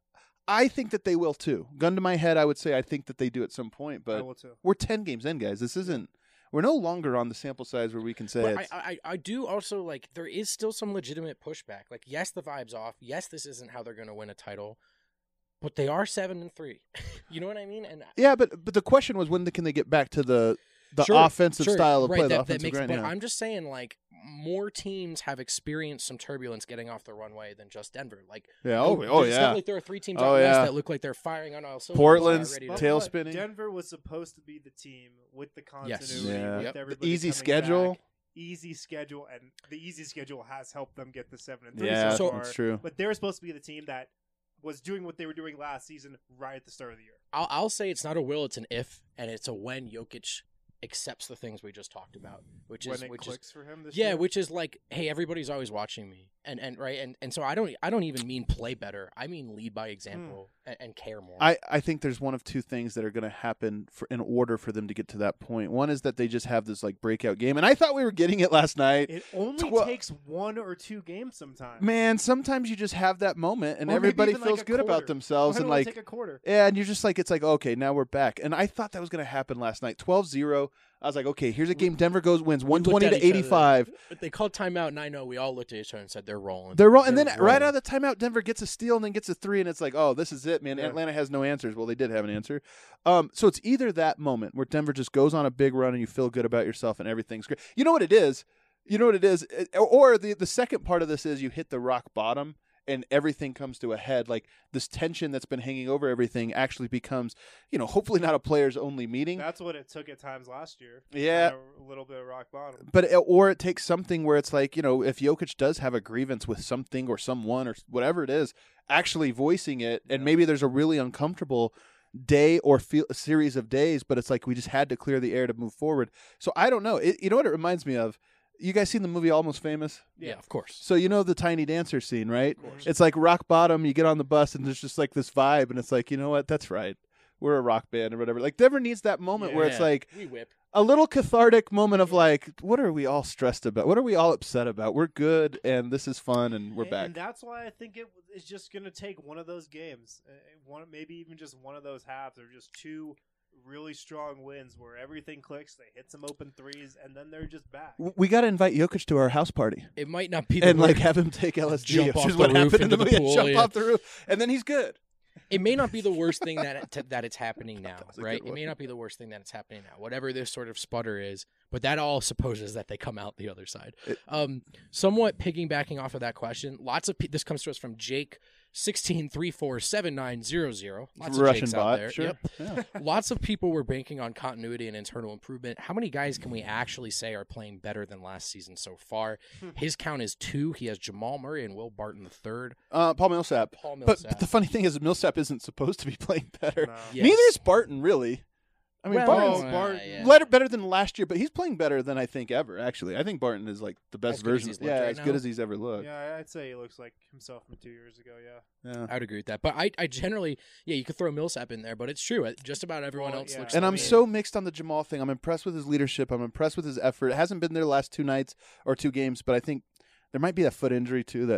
I think that they will too. Gun to my head, I would say I think that they do at some point, I but will too. we're ten games in, guys. This isn't. We're no longer on the sample size where we can say But it's. I, I, I do also like there is still some legitimate pushback. Like, yes, the vibe's off. Yes, this isn't how they're going to win a title, but they are seven and three. You know what I mean? And yeah, but but the question was when can they get back to the the Sure, offensive sure, style of right, play, the that, that offensive makes, grind. But yeah. I'm just saying, like, more teams have experienced some turbulence getting off the runway than just Denver. Like, Yeah, oh, there- oh, it's yeah. not like there are three teams Oh, out west yeah. that look like they're firing on all cylinders. Portland's ready to But go. tail what, spinning. Denver was supposed to be the team with the Yes. continuity, Yeah. with Yep. The everybody easy coming schedule. back. Easy schedule, and the easy schedule has helped them get the seven and three Yeah, so So- far. that's true. But they were supposed to be the team that was doing what they were doing last season right at the start of the year. I'll, I'll say it's not a will, it's an if, and it's a when Jokic accepts the things we just talked about, which when is it which clicks is for him this yeah, year. which is like, hey, everybody's always watching me, and and right, and and so I don't I don't even mean play better, I mean lead by example and, and care more. I, I think there's one of two things that are going to happen for, in order for them to get to that point. One is that they just have this like breakout game, and I thought we were getting it last night. It only Twe- takes one or two games sometimes. Man, sometimes you just have that moment, and Or maybe everybody even, like, feels a good about quarter. themselves, Why and don't it like, take a quarter. yeah, and you're just like, it's like, okay, now we're back. And I thought that was going to happen last night. twelve zero. I was like, okay, here's a game. Denver goes wins We one looked twenty at to each other. eighty-five. But they called timeout, and I know we all looked at each other and said they're rolling. They're rolling, and then They're right rolling. out of the timeout, Denver gets a steal and then gets a three, and it's like, oh, this is it, man. Yeah. Atlanta has no answers. Well, they did have an answer. Um, so it's either that moment where Denver just goes on a big run and you feel good about yourself and everything's great. You know what it is? You know what it is? It- or the the second part of this is you hit the rock bottom and everything comes to a head. Like this tension that's been hanging over everything actually becomes, you know, hopefully not a players only meeting. That's what it took at times last year. Yeah. Kinda a little bit of rock bottom. But it, or it takes something where it's like, you know, if Jokic does have a grievance with something or someone or whatever it is, actually voicing it, and Yeah. maybe there's a really uncomfortable day or feel, a series of days, but it's like we just had to clear the air to move forward. So I don't know. It, you know what it reminds me of? You guys seen the movie Almost Famous? yeah, of course. So you know the Tiny Dancer scene, right? Of course. It's like rock bottom. You get on the bus and there's just like this vibe, and it's like, you know what? That's right. We're a rock band or whatever. Like Denver needs that moment where it's Yeah. like We whip. a little cathartic moment of like, what are we all stressed about? What are we all upset about? We're good and this is fun and we're And- back. And that's why I think it is just going to take one of those games, uh, one maybe even just one of those halves, or just two really strong wins where everything clicks. They hit some open threes, and then they're just back. W- we got to invite Jokic to our house party It might not be the and like worst- have him take L S D, Jump which off is the what roof happened in the into the movie. pool, Jump yeah. off the roof, and then he's good. It may not be the worst thing that it, that it's happening now, That was a right? good It may one. not be the worst thing that it's happening now. Whatever this sort of sputter is, but that all supposes that they come out the other side. It- um, somewhat piggybacking off of that question, lots of pe- this comes to us from Jake sixteen three four seven nine zero zero. Lots of Russian Jakes bot, out there. sure. Yep. Yeah. Lots of people were banking on continuity and internal improvement. How many guys can we actually say are playing better than last season so far? His count is two. He has Jamal Murray and Will Barton the third. Uh, Paul Millsap. Paul But, Millsap. but the funny thing is, Millsap isn't supposed to be playing better. No. Yes. Neither is Barton, really. I mean, Well, Barton's uh, Barton- yeah. better, better than last year, but he's playing better than I think ever. Actually, I think Barton is like the best As good as version. he's looked Yeah, right as now? good as he's ever looked. Yeah, I'd say he looks like himself from two years ago. Yeah. Yeah. I would agree with that. But I, I generally, yeah, you could throw Millsap in there, but it's true. Just about everyone Well, else yeah. looks And the I'm same. so mixed on the Jamal thing. I'm impressed with his leadership. I'm impressed with his effort. It hasn't been there the last two nights or two games, but I think there might be that foot injury too that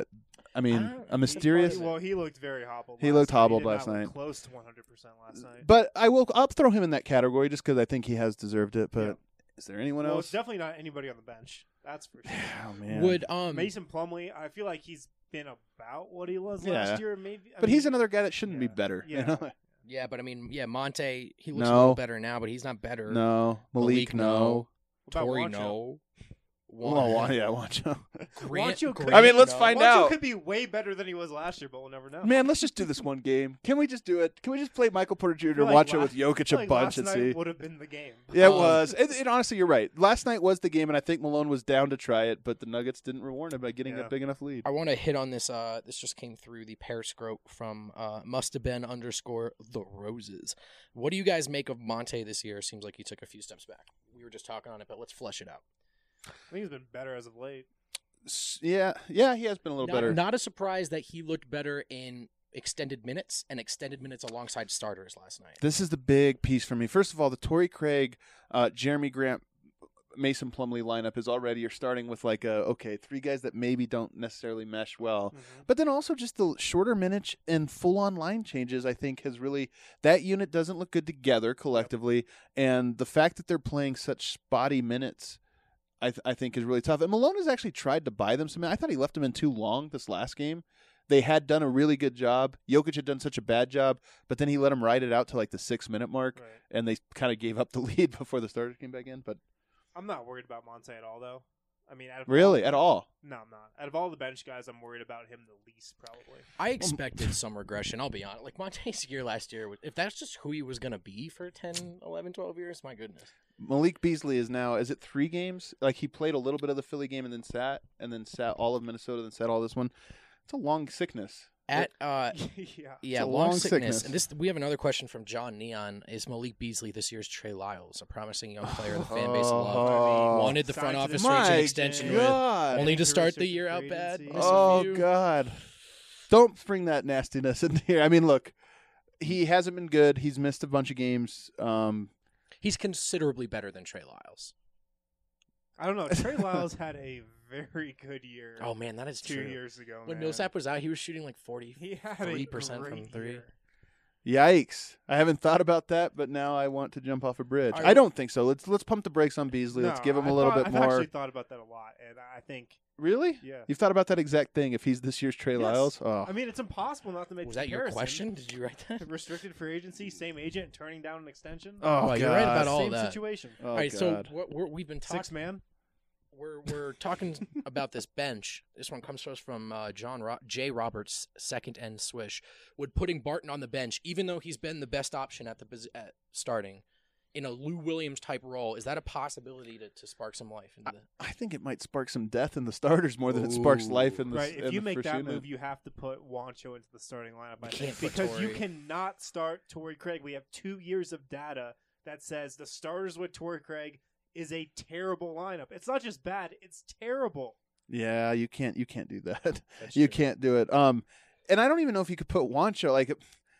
I mean, I don't- a mysterious. He, well, he looked very hobbled. He last looked night. hobbled He did last not look night. Close to one hundred percent last night. But I will. I'll throw him in that category just because I think he has deserved it. But Yeah. is there anyone well, else? it's definitely not anybody on the bench. That's for sure. Oh man. Would um Mason Plumlee, I feel like he's been about what he was Yeah. last year. Maybe, I but mean, he's another guy that shouldn't be yeah. better. you Yeah. know? yeah, but I mean, yeah, Monte he looks a No. little better now, but he's not better. No. Malik, Malik, no. no. What about Tori, Wancho? no. Well, wa- yeah, watch out. Grant, Wancho could- Grant, I mean, let's no. find Wancho out. could be way better than he was last year, but we'll never know. Man, let's just do this one game. Can we just do it? Can we just play Michael Porter Junior feel and like watch it with last- Jokic I feel a like bunch last and night see? would have been the game. Yeah, it Um, was. It, it, honestly, you're right. Last night was the game, and I think Malone was down to try it, but the Nuggets didn't reward him by getting Yeah. a big enough lead. I want to hit on this. Uh, this just came through the Periscope from uh, must have been underscore the Roses. What do you guys make of Monte this year? Seems like he took a few steps back. We were just talking on it, but let's flesh it out. I think he's been better as of late. S- Yeah, yeah, he has been a little Not, better. not a surprise that he looked better in extended minutes and extended minutes alongside starters last night. This is the big piece for me. First of all, the Torrey Craig, uh, Jeremy Grant, Mason Plumlee lineup is already, you're starting with like, a, okay, three guys that maybe don't necessarily mesh well. Mhm. But then also just the shorter minutes and full-on line changes, I think, has really – that unit doesn't look good together collectively. And the fact that they're playing such spotty minutes – I, th- I think is really tough. And Malone has actually tried to buy them some. I thought he left them in too long this last game. They had done a really good job. Jokic had done such a bad job, but then he let them ride it out to like the six minute mark, Right. and they kind of gave up the lead before the starters came back in. But I'm not worried about Monte at all, though. I mean, out of really, all, at all, No, I'm not. Out of all the bench guys, I'm worried about him the least, probably. I expected some regression. I'll be honest. Like Monte's year last year, if that's just who he was going to be for ten, eleven, twelve years, my goodness. Malik Beasley is now. Is it three games? Like he played a little bit of the Philly game and then sat, and then sat all of Minnesota, then sat all this one. It's a long sickness. At uh, yeah. yeah, a long, long sickness. sickness. And this, we have another question from John Neon. Is Malik Beasley this year's Trey Lyles, a promising young player the fan base loves? Oh. Wanted the front Signed to office the- to reach an My extension with, God. only to start the Restricted year out free bad. agency. Miss a Oh few. God! Don't bring that nastiness in here. I mean, look, he hasn't been good. He's missed a bunch of games. Um, He's considerably better than Trey Lyles. I don't know. Trey Lyles had a very good year Oh man, that is two true. years ago. When man. Millsap was out, he was shooting like forty. he had three a percent from great three. year. yikes! I haven't thought about that, but now I want to jump off a bridge. I- I don't think so. Let's let's pump the brakes on Beasley. let's No, give him a I little thought- bit I've more. actually thought about that a lot, and I think, Really? yeah. You've thought about that exact thing. If he's this year's Trey Yes. Lyles, oh, I mean, it's impossible not to make Was the that your comparison. question? Did you write that? Restricted free agency, same agent, turning down an extension. oh, Oh, you're right about God. all same that. situation. Oh, All right, God. so what we're, we've been Six talking. man. We're we're talking about this bench. This one comes to us from uh, John Ro- J. Roberts, second end swish. Would putting Barton on the bench, even though he's been the best option at the posi- at starting, in a Lou Williams type role, is that a possibility to, to spark some life into the? I think it might spark some death in the starters more than it sparks Ooh. life in the Right. in If you the make first that unit. move, you have to put Wancho into the starting lineup. I You think, can't put because you Torrey. cannot start Torrey Craig. We have two years of data that says the starters with Torrey Craig is a terrible lineup. It's not just bad; it's terrible. Yeah, you can't you can't do that. That's You true. can't do it. Um, and I don't even know if you could put Wancho like.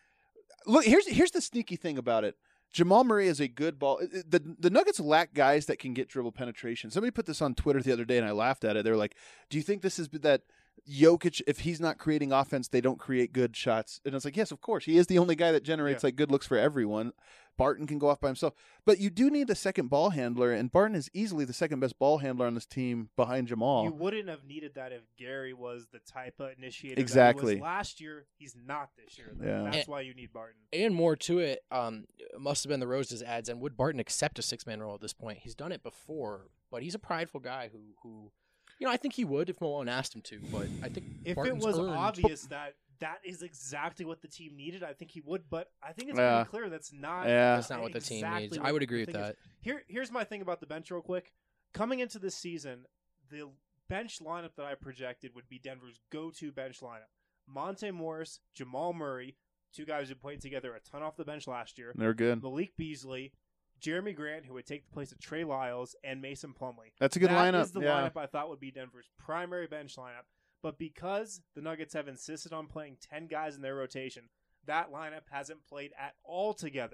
Look, here's here's the sneaky thing about it. Jamal Murray is a good ball. The the Nuggets lack guys that can get dribble penetration. Somebody put this on Twitter the other day, and I laughed at it. They were like, "Do you think this is that Jokic? If he's not creating offense, they don't create good shots." And it's like, yes, of course, he is the only guy that generates Yeah. like good looks for everyone. Barton can go off by himself, but you do need a second ball handler, and Barton is easily the second best ball handler on this team behind Jamal. You wouldn't have needed that if Gary was the type of initiator that Exactly. he was last year. He's not this year. Though. Yeah. That's And- why you need Barton. And more to it, um, must have been the Roses ads. And would Barton accept a six man role at this point? He's done it before, but he's a prideful guy who, who, you know, I think he would if Malone asked him to. But I think If Barton's it was earned- obvious that that is exactly what the team needed, I think he would. But I think it's Yeah. pretty clear that's not. Yeah. that's not what the team exactly needs. what I would the agree with thing is. that. Here, here's my thing about the bench, real quick. Coming into this season, the bench lineup that I projected would be Denver's go-to bench lineup: Monte Morris, Jamal Murray, two guys who played together a ton off the bench last year. They're good. Malik Beasley, Jeremy Grant, who would take the place of Trey Lyles, and Mason Plumlee. That's a good That lineup. is the yeah. lineup I thought would be Denver's primary bench lineup. But because the Nuggets have insisted on playing ten guys in their rotation, that lineup hasn't played at all together.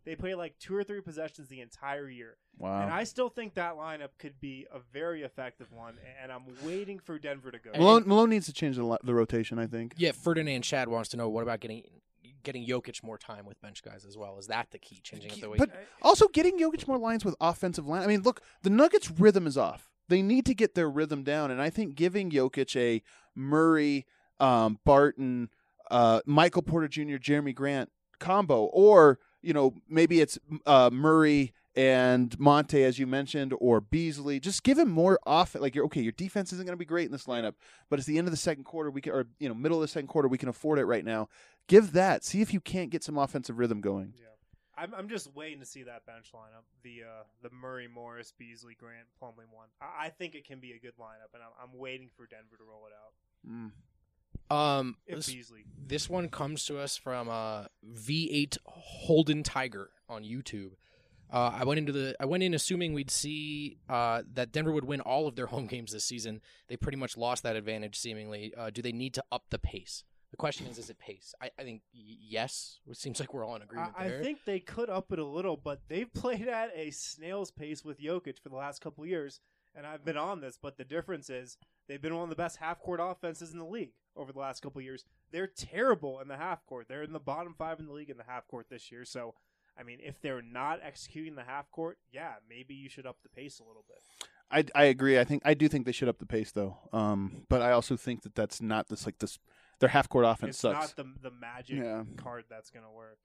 They play like two or three possessions the entire year. Wow. And I still think that lineup could be a very effective one, and I'm waiting for Denver to go. Malone, Malone needs to change the, lo- the rotation, I think. Yeah, Ferdinand Chad wants to know, what about getting getting Jokic more time with bench guys as well? Is that the key, changing up the way? But also getting Jokic more lines with offensive line. I mean, look, the Nuggets' rhythm is off. They need to get their rhythm down, and I think giving Jokic a Murray, um, Barton, uh, Michael Porter Junior, Jeremy Grant combo, or you know maybe it's uh, Murray and Monte, as you mentioned, or Beasley. Just give him more off. Like you're okay. Your defense isn't going to be great in this lineup, but it's the end of the second quarter. We can, or you know, middle of the second quarter, we can afford it right now. Give that. See if you can't get some offensive rhythm going. Yeah. I'm I'm just waiting to see that bench lineup. The uh, the Murray, Morris, Beasley, Grant, Plumlee one. I, I think it can be a good lineup, and I'm, I'm waiting for Denver to roll it out. Mm. Um, If this, Beasley. this one comes to us from uh, V eight Holden Tiger on YouTube. Uh, I went into the I went in assuming we'd see uh, that Denver would win all of their home games this season. They pretty much lost that advantage seemingly. Uh, do they need to up the pace? The question is, is it pace? I, I think y- yes. It seems like we're all in agreement I, I there. think they could up it a little, but they've played at a snail's pace with Jokic for the last couple of years, and I've been on this, but the difference is they've been one of the best half-court offenses in the league over the last couple of years. They're terrible in the half-court. They're in the bottom five in the league in the half-court this year, so I mean, if they're not executing the half-court, yeah, maybe you should up the pace a little bit. I, I agree. I think I do think they should up the pace though. Um, but I also think that that's not this like this. Their half court offense It's sucks. not the the magic Yeah. card that's going to work.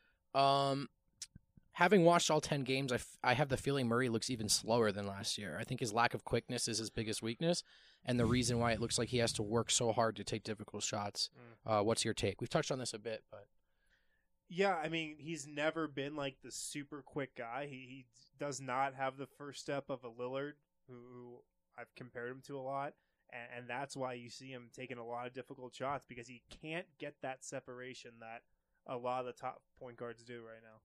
Um, having watched all ten games, I, f- I have the feeling Murray looks even slower than last year. I think his lack of quickness is his biggest weakness, and the reason why it looks like he has to work so hard to take difficult shots. Uh, what's your take? We've touched on this a bit, but Yeah, I mean, he's never been like the super quick guy. He, he does not have the first step of a Lillard, who, who I've compared him to a lot, and, and that's why you see him taking a lot of difficult shots, because he can't get that separation that a lot of the top point guards do right now.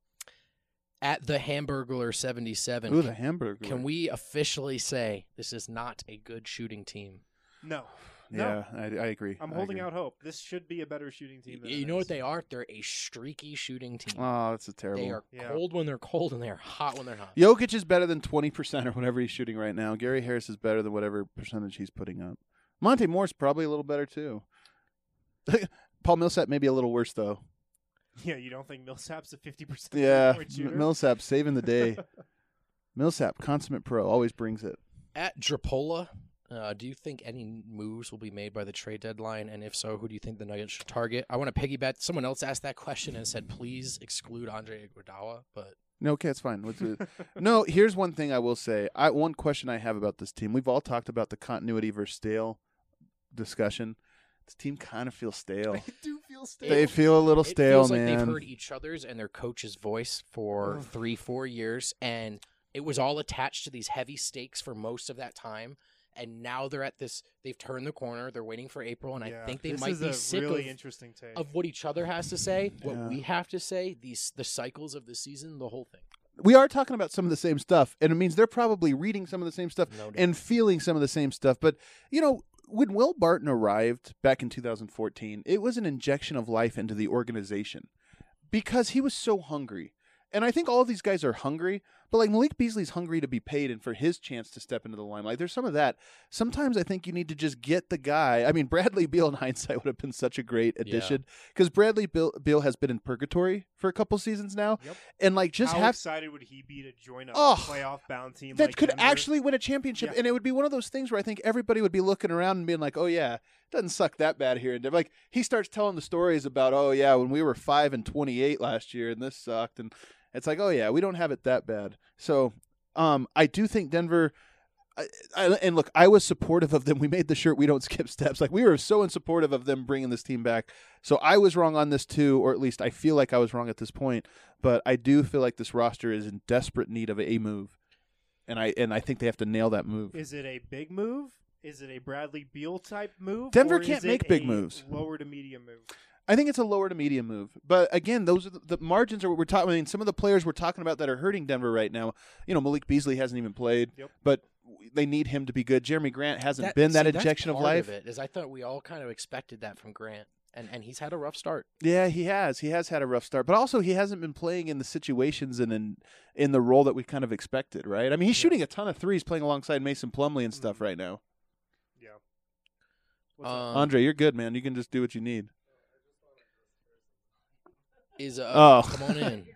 at the Hamburglar seventy-seven, Ooh, can, the hamburger. can we officially say this is not a good shooting team? No. No. Yeah, I, I agree. I'm I holding agree. out hope. This should be a better shooting team than You it know is. what they are? They're a streaky shooting team. Oh, that's a terrible. They are Yeah. cold when they're cold, and they are hot when they're hot. Jokic is better than twenty percent or whatever he's shooting right now. Gary Harris is better than whatever percentage he's putting up. Monte Morris probably a little better too. Paul Millsap maybe a little worse though. Yeah, you don't think Millsap's a fifty percent Yeah, point shooter? M- Millsap saving the day. Millsap, consummate pro, always brings it. At Drapola, uh, do you think any moves will be made by the trade deadline? And if so, who do you think the Nuggets should target? I want to piggyback. Someone else asked that question and said, please exclude Andre Iguodala. But No, okay, it's fine. Let's do it. No, here's one thing I will say. I one question I have about this team. We've all talked about the continuity versus stale discussion. This team kind of feels stale. They do feel stale. They feel a little it stale, feels like man. they've heard each other's and their coach's voice for three, four years, and it was all attached to these heavy stakes for most of that time. And now they're at this. They've turned the corner. They're waiting for April, and Yeah, I think they this might is be a sick really of, interesting take. of what each other has to say, what Yeah. we have to say, these the cycles of the season, the whole thing. We are talking about some of the same stuff, and it means they're probably reading some of the same stuff No doubt. and feeling some of the same stuff. But, you know, when Will Barton arrived back in two thousand fourteen, it was an injection of life into the organization because he was so hungry. And I think all of these guys are hungry, but like Malik Beasley's hungry to be paid and for his chance to step into the limelight. There's some of that. Sometimes I think you need to just get the guy. I mean, Bradley Beal in hindsight would have been such a great addition because Bradley Beal, Beal has been in purgatory for a couple seasons now. Yep. And like just How have excited would he be to join a Oh, playoff bound team that like could Denver? actually win a championship, Yeah. and it would be one of those things where I think everybody would be looking around and being like, "Oh yeah, it doesn't suck that bad here." And like he starts telling the stories about, "Oh yeah, when we were five and twenty-eight last year, and this sucked," and it's like, "Oh yeah, we don't have it that bad." So, um, I do think Denver. I, I, and look, I was supportive of them. We made the shirt "We Don't Skip Steps." Like we were so in supportive of them bringing this team back. So I was wrong on this too, or at least I feel like I was wrong at this point. But I do feel like this roster is in desperate need of a move, and I and I think they have to nail that move. Is it a big move? Is it a Bradley Beal type move? Denver or can't is it make big a moves. Lower to medium move. I think it's a lower to medium move. But again, those are the, the margins are what we're talking. I mean, some of the players we're talking about that are hurting Denver right now. You know, Malik Beasley hasn't even played, Yep. but they need him to be good. Jeremy Grant hasn't That- been that see, that's injection of part life. Of it, is I thought we all kind of expected that from Grant. and and he's had a rough start. Yeah, he has. He has had a rough start, but also he hasn't been playing in the situations and in in the role that we kind of expected, right? I mean, he's Yeah. shooting a ton of threes, playing alongside Mason Plumlee and stuff Mhm. right now. Yeah. What's up? Um, Andre, you're good, man. You can just do what you need. Is uh, Oh. come on in.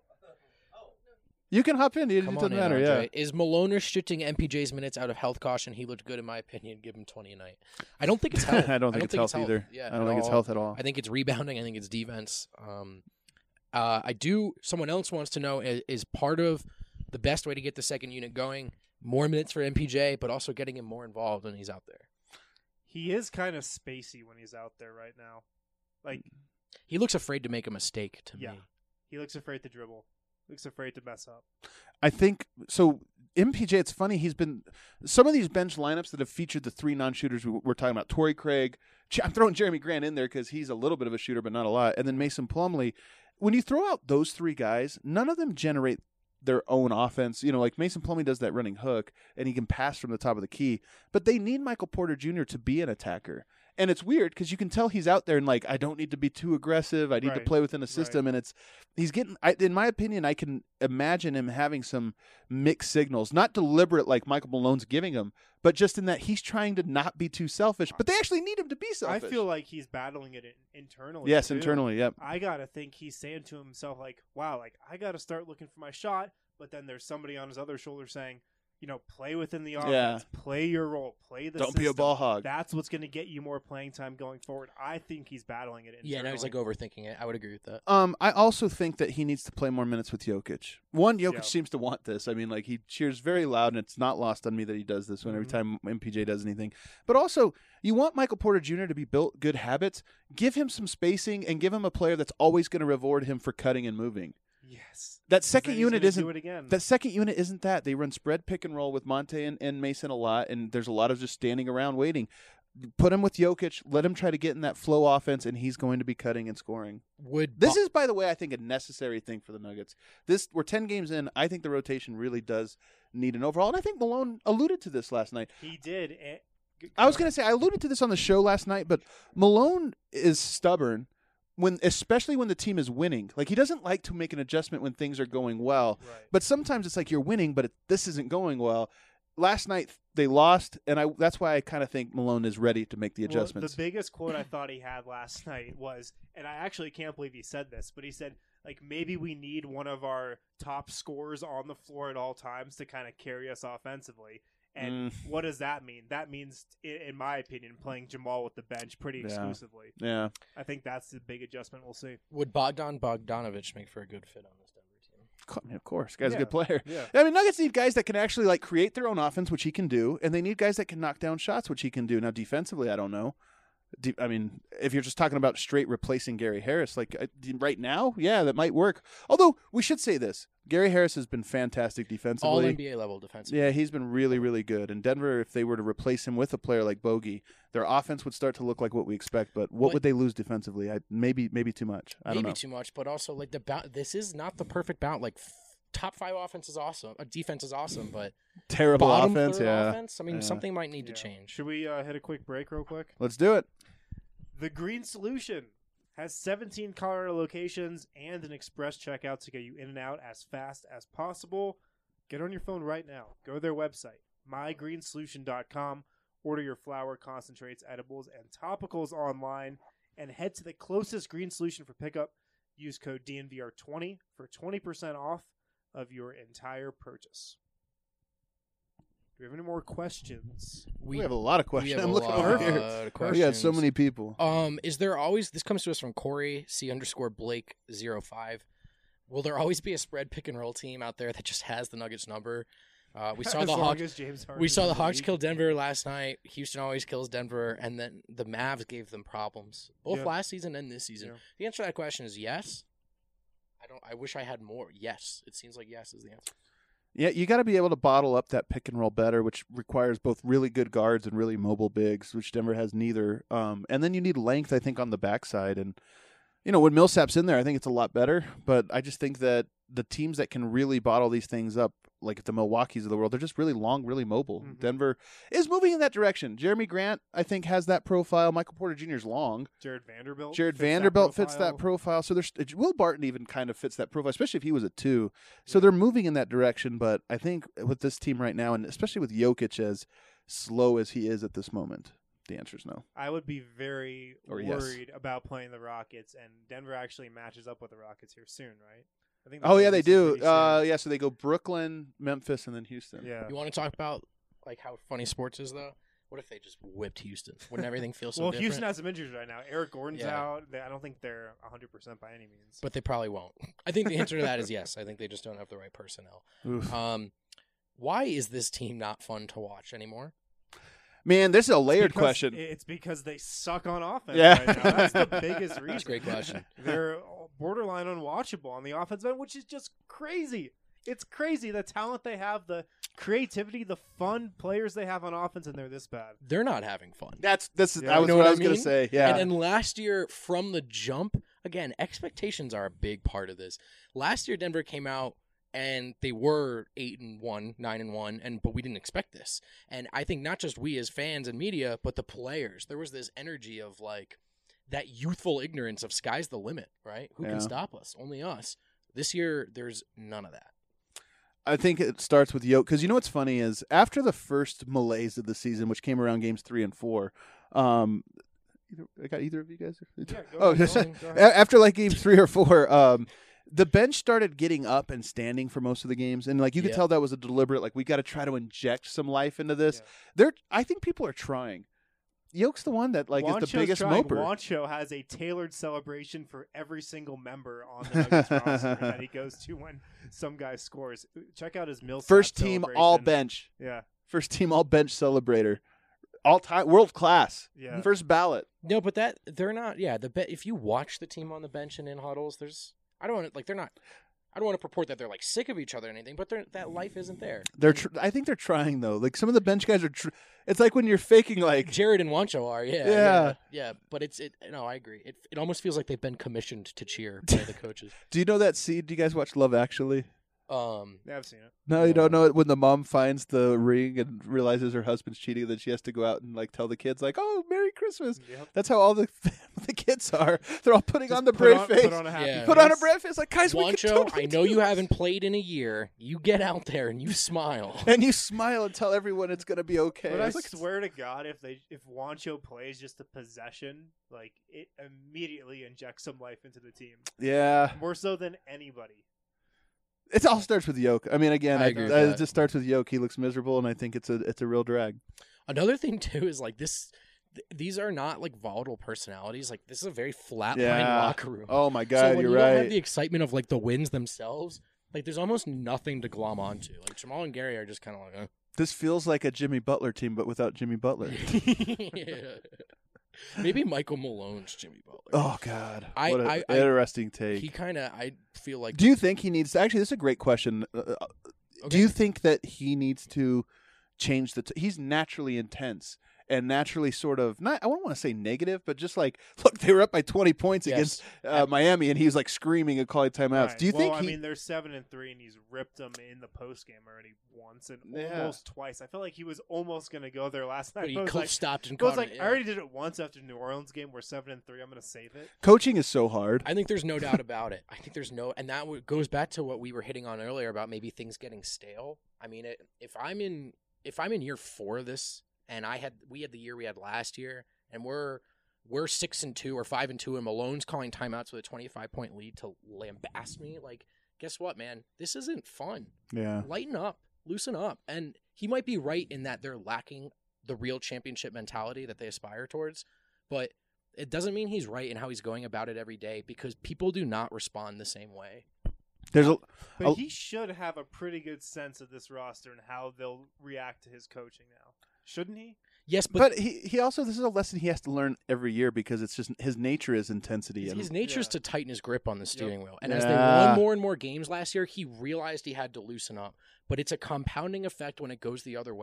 You can hop in. It Come doesn't on in, matter. Andre. Yeah. Is Malone restricting M P J's minutes out of health caution? He looked good in my opinion. Give him twenty a night. I don't think it's health. I don't think it's health either. Yeah, I don't at think it's all. health at all. I think it's rebounding. I think it's defense. Um, uh, I do. Someone else wants to know: is, is part of the best way to get the second unit going more minutes for M P J, but also getting him more involved when he's out there? He is kind of spacey when he's out there right now. Like, He looks afraid to make a mistake. To yeah, me, he looks afraid to dribble. Looks afraid to mess up. I think so. M P J, it's funny. He's been some of these bench lineups that have featured the three non-shooters we we're talking about. Torrey Craig. I'm throwing Jeremy Grant in there because he's a little bit of a shooter, but not a lot. And then Mason Plumlee. When you throw out those three guys, none of them generate their own offense. You know, like Mason Plumlee does that running hook, and he can pass from the top of the key. But they need Michael Porter Junior to be an attacker. And it's weird because you can tell he's out there and like, I don't need to be too aggressive. I need to Right. play within a system. And it's, he's getting, I, in my opinion, I can imagine him having some mixed signals, not deliberate like Michael Malone's giving him, but just in that he's trying to not be too selfish. But they actually need him to be selfish. I feel like he's battling it in, internally. yes, too. internally. Yep. I gotta think he's saying to himself, like, "Wow, like I gotta start looking for my shot." But then there's somebody on his other shoulder saying, "You know, play within the offense, play your role, play the Don't be a system. ball hog. That's what's gonna get you more playing time going forward." I think he's battling it internally. yeah. Now he's like overthinking it. I would agree with that. Um, I also think that he needs to play more minutes with Jokic. One, Jokic Yeah. seems to want this. I mean, like he cheers very loud, and it's not lost on me that he does this when every Mhm. time M P J does anything. But also, you want Michael Porter Junior to be built good habits. Give him some spacing and give him a player that's always going to reward him for cutting and moving. Yes. That 'Cause second then he's unit gonna isn't do it again. that second unit isn't that. They run spread pick and roll with Monte and, and Mason a lot, and there's a lot of just standing around waiting. Put him with Jokic, let him try to get in that flow offense, and he's going to be cutting and scoring. Would This Bo- is, by the way, I think a necessary thing for the Nuggets. This we're ten games in. I think the rotation really does need an overhaul, and I think Malone alluded to this last night. he did. And, I was going to say I alluded to this on the show last night, but Malone is stubborn when, especially when the team is winning. Like he doesn't like to make an adjustment when things are going well. Right. But sometimes it's like you're winning, but it, this isn't going well. Last night they lost, and I that's why I kind of think Malone is ready to make the Well, adjustments. the biggest quote I thought he had last night was, and I actually can't believe he said this, but he said, like, maybe we need one of our top scorers on the floor at all times to kind of carry us offensively. And Mm. what does that mean? That means, i- in my opinion, playing Jamal with the bench pretty Yeah. exclusively. yeah. I think that's the big adjustment we'll see. would Bogdan Bogdanovich make for a good fit on this Denver team? Co- Of course, guy's Yeah. a good player. Yeah. I mean, Nuggets need guys that can actually like create their own offense, which he can do, and they need guys that can knock down shots, which he can do. Now, defensively, I don't know. De- I mean, if you're just talking about straight replacing Gary Harris, like uh, right now, yeah, that might work. Although we should say this: Gary Harris has been fantastic defensively. All N B A level defensive. Yeah, he's been really, really good. And Denver, if they were to replace him with a player like Bogey, their offense would start to look like what we expect. But what But- would they lose defensively? I maybe, maybe too much. I Maybe don't know. too much, but also like the bout. This is not the perfect bout. Like f- top five offense is awesome. Uh, defense is awesome, but Terrible bottom offense. third Yeah, offense. I mean, Yeah. something might need Yeah. to change. Should we uh, hit a quick break real quick? let's do it. The Green Solution has seventeen Colorado locations and an express checkout to get you in and out as fast as possible. Get on your phone right now. Go to their website, my green solution dot com. Order your flower, concentrates, edibles, and topicals online, and head to the closest Green Solution for pickup. Use code D N V R twenty for twenty percent off of your entire purchase. Do we have any more questions? We, have a lot of we questions. have I'm a looking lot over of here. questions. We got so many people. Um, is there always this comes to us from Corey C underscore Blake zero five? Will there always be a spread pick and roll team out there that just has the Nuggets number? Uh, we saw As the long Hawks. as James Harden We saw is the in Hawks league. kill Denver last night. Houston always kills Denver, and then the Mavs gave them problems both Yeah. last season and this season. Yeah. The answer to that question is yes. I don't. I wish I had more. Yes, it seems like yes is the answer. Yeah, you got to be able to bottle up that pick and roll better, which requires both really good guards and really mobile bigs, which Denver has neither. Um, and then you need length, I think, on the backside. And You know, when Millsap's in there, I think it's a lot better. But I just think that the teams that can really bottle these things up, like the Milwaukees of the world, they're just really long, really mobile. Mm-hmm. Denver is moving in that direction. Jeremy Grant, I think, has that profile. Michael Porter Junior is long. Jared Vanderbilt. Jared fits Vanderbilt that fits that profile. So there's Will Barton even kind of fits that profile, especially if he was a two. So Yeah. they're moving in that direction. But I think with this team right now, and especially with Jokic as slow as he is at this moment, the answer is no. I would be very Or yes. worried about playing the Rockets, and Denver actually matches up with the Rockets here soon, right? I think. Oh yeah, they this is do. pretty Uh, soon. yeah, so they go Brooklyn, Memphis, and then Houston. Yeah. You want to talk about like how funny sports is though? What if they just whipped Houston? Wouldn't everything feel so Well, different? Houston has some injuries right now. Eric Gordon's Yeah. out. They, I don't think they're one hundred percent by any means. But they probably won't. I think the answer to that is yes. I think they just don't have the right personnel. Oof. Um, why is this team not fun to watch anymore? Man, this is a layered Because- question. It's because they suck on offense Yeah. right now. That's the biggest reason. That's a great question. They're borderline unwatchable on the offense end, which is just crazy. It's crazy the talent they have, the creativity, the fun players they have on offense, and they're this bad. They're not having fun. That's this is Yeah. that was You know what what I I was gonna mean? say. Yeah. And then last year, from the jump, again, expectations are a big part of this. Last year, Denver came out and they were eight and one, nine and one, and but we didn't expect this. And I think not just we as fans and media, but the players. There was this energy of like that youthful ignorance of sky's the limit, right? Who Yeah. can stop us? Only us. This year, there's none of that. I think it starts with Yoke because you know what's funny is after the first malaise of the season, which came around games three and four. Um, either, I got either of you guys. Yeah, go oh, ahead, go ahead, go a- ahead. after like game three or four, um, the bench started getting up and standing for most of the games, and like you could Yeah. tell that was a deliberate. Like we got to try to inject some life into this. Yeah. They're, I think people are trying. Yoke's the one that like is Wancho's the biggest trying. moper. Wancho has a tailored celebration for every single member on the Nuggets roster that he goes to when some guy scores. Check out his Millsap First team all celebration. bench. Yeah, First team all bench celebrator. All time world class. yeah. First ballot. No, but that they're not. Yeah, the be- if you watch the team on the bench and in huddles, there's I don't want to like they're not. I don't want to purport that they're like sick of each other or anything, but they're, that life isn't there. They're tr- I think they're trying though. Like some of the bench guys are tr- it's like when you're faking like Jared and Wancho are, yeah, Yeah. yeah, yeah. But it's it. No, I agree. It it almost feels like they've been commissioned to cheer by the coaches. Do you know that scene? Do you guys watch Love Actually? Um, Yeah, I've seen it. No, you don't know it when the mom finds the ring and realizes her husband's cheating, then she has to go out and like tell the kids like, "Oh, Merry Christmas." Yep. That's how all the the kids are. They're all putting Just on the put brave on, face. Put on a happy Yeah. Put on a face. brave face like, "Guys, we can Wancho, totally I know do you this." haven't played in a year. You get out there and you smile. And you smile and tell everyone it's gonna be okay. But I It's like- swear to God, if they if Wancho plays just a possession, like it immediately injects some life into the team, yeah, more so than anybody. it all starts with Yoke. I mean, again, I I agree with I- that. it just starts with Yoke. He looks miserable, and I think it's a it's a real drag. Another thing too is like this. Th- these are not like volatile personalities. Like this is a very flatline Yeah. locker room. Oh my so God, when you're you don't have right. the excitement of like the wins themselves, like there's almost nothing to glom onto. Like Jamal and Gary are just kind of like, uh. This feels like a Jimmy Butler team, but without Jimmy Butler. Yeah. Maybe Michael Malone's Jimmy Butler. Oh God, I- what an I- I- interesting take. He kind of, I feel like. Do you think he needs? Actually, this is a great question. Uh, uh, Do Okay. you think that he needs to change the? T- he's naturally intense and naturally sort of not. I don't want to say negative, but just like, look, they were up by twenty points Yes. against uh, Miami, and he was like screaming and calling timeouts. Right. Do you well, think I he? mean, they're seven and three, and he's ripped them in the post game already once and Yeah. almost twice. I felt like he was almost going to go there last night. But he I was cl- like, stopped and I was caught like, it, I yeah. already did it once after New Orleans game. We're seven and three. I'm going to save it. Coaching is so hard. I think there's no doubt about it. I think there's no, and that w- goes back to what we were hitting on earlier about maybe things getting stale. I mean, it, if I'm in, if I'm in year four of this, and I had, we had the year we had last year, and we're we're six and two or five and two, and Malone's calling timeouts with a twenty-five point lead to lambast me. Like, guess what, man? This isn't fun. Yeah. Lighten up, loosen up, and he might be right in that they're lacking the real championship mentality that they aspire towards, but it doesn't mean he's right in how he's going about it every day because people do not respond the same way. There's a. But Oh. he should have a pretty good sense of this roster and how they'll react to his coaching now. Shouldn't he? Yes, but, But he, he also this is a lesson he has to learn every year because it's just his nature is intensity. his, And his nature is Yeah. to tighten his grip on the steering wheel. And as they Yeah. won more and more games last year, he realized he had to loosen up. But it's a compounding effect when it goes the other way.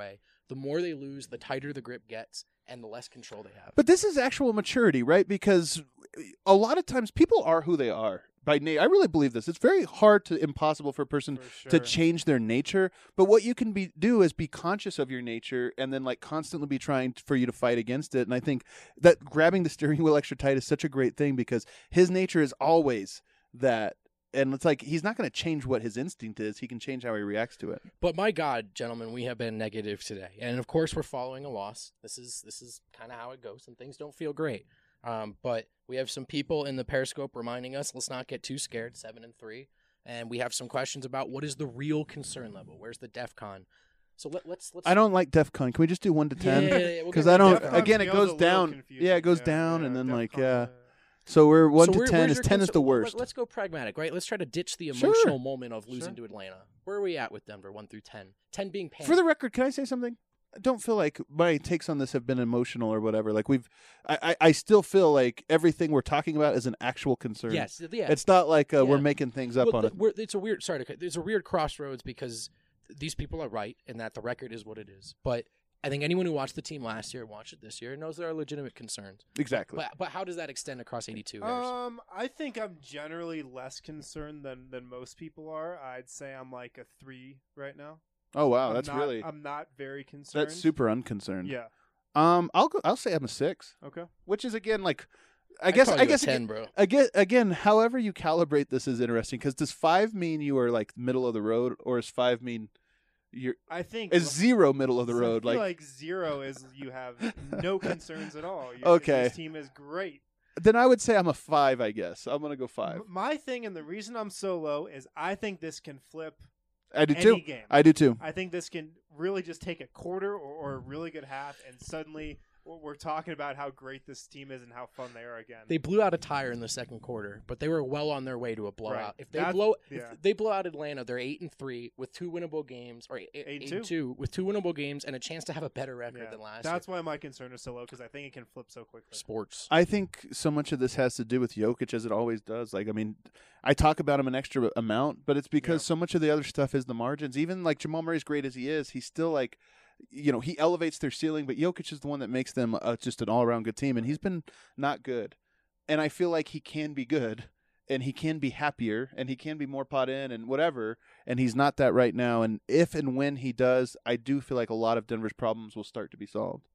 the more they lose, the tighter the grip gets, and the less control they have. But this is actual maturity, right? Because a lot of times people are who they are by nature. I really believe this. It's very hard to impossible for a person For sure. to change their nature. But what you can be do is be conscious of your nature and then like constantly be trying for you to fight against it. And I think that grabbing the steering wheel extra tight is such a great thing because his nature is always that. And it's like he's not going to change what his instinct is. He can change how he reacts to it. But my God, gentlemen, we have been negative today, and of course we're following a loss. This is this is kind of how it goes, and things don't feel great. Um, but we have some people in the Periscope reminding us, let's not get too scared. Seven and three, and we have some questions about what is the real concern level. Where's the DEFCON? So let, let's let's. I don't like DEF CON. Can we just do one to ten? Yeah, yeah, yeah, we'll Because get I rid of don't. DEF CON. Again, it Feels goes a little down. confusing. Yeah, it goes Yeah, down, yeah, and then like DEFCON, yeah. So we're one So to where- ten. where's Is your ten is concern- the let- worst. Let's go pragmatic, right? Let's try to ditch the Sure. emotional moment of losing Sure. to Atlanta. Where are we at with Denver, one through ten? Ten being panic. For the record, can I say something? I don't feel like my takes on this have been emotional or whatever. Like we've, I, I, I still feel like everything we're talking about is an actual concern. yes, yeah. It's not like uh, we're Yeah. making things up Well, on the- it. we're- it's a weird. Sorry, to cut- it's a weird crossroads because these people are right in that the record is what it is. But I think anyone who watched the team last year, watched it this year, knows there are legitimate concerns. Exactly. But but how does that extend across eighty-two? Harrison? Um, I think I'm generally less concerned than than most people are. I'd say I'm like a three right now. Oh wow, I'm that's not- really I'm not very concerned. that's super unconcerned. Yeah. Um, I'll go. I'll say I'm a six, Okay. which is again like, I I'd guess call I you a guess ten, again, bro. again again however you calibrate this is interesting because does five mean you are like middle of the road or is five mean you're I think is zero middle of the I road feel like, like zero is you have no concerns at all. You, Okay. This team is great. then I would say I'm a five. I guess I'm gonna go five. M- My thing and the reason I'm so low is I think this can flip I do any too. game. I do too. I think this can really just take a quarter or, or a really good half, and suddenly we're we're talking about how great this team is and how fun they are again. They blew out a tire in the second quarter, but they were well on their way to a blowout. Right. If they That's- blow, yeah. if they blow out Atlanta, they're eight and three with two winnable games, or eight, eight, Eight and eight and two. two with two winnable games and a chance to have a better record Yeah. than last That's year. why my concern is so low because I think it can flip so quickly. Sports. I think so much of this has to do with Jokic, as it always does. Like, I mean, I talk about him an extra amount, but it's because Yeah. so much of the other stuff is the margins. Even like Jamal Murray, as great as he is, he's still like, you know, he elevates their ceiling, but Jokic is the one that makes them uh, just an all-around good team, and he's been not good. And I feel like he can be good, and he can be happier, and he can be more pot in, and whatever. And he's not that right now. And if and when he does, I do feel like a lot of Denver's problems will start to be solved.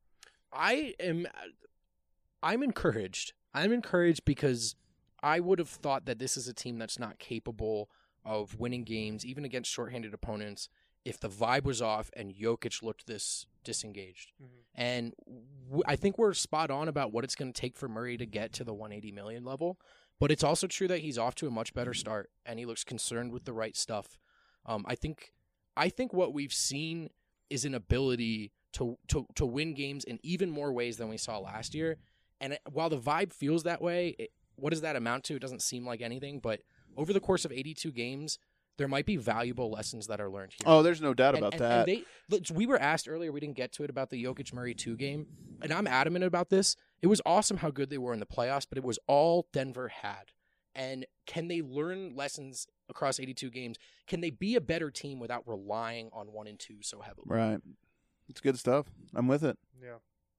I am I'm encouraged. I'm encouraged because I would have thought that this is a team that's not capable of winning games, even against shorthanded opponents, if the vibe was off and Jokic looked this disengaged. Mhm. And w- I think we're spot on about what it's going to take for Murray to get to the one eighty million level. But it's also true that he's off to a much better start, and he looks concerned with the right stuff. Um, I think, I think what we've seen is an ability to to to win games in even more ways than we saw last year. And it, while the vibe feels that way, it, what does that amount to? It doesn't seem like anything. But over the course of eighty-two games, there might be valuable lessons that are learned here. Oh, there's no doubt And- about and- that. and they, look, we were asked earlier, we didn't get to it, about the Jokic Murray two game, and I'm adamant about this. It was awesome how good they were in the playoffs, but it was all Denver had. And can they learn lessons across eighty-two games? Can they be a better team without relying on one and two so heavily? Right. It's good stuff. I'm with it. Yeah.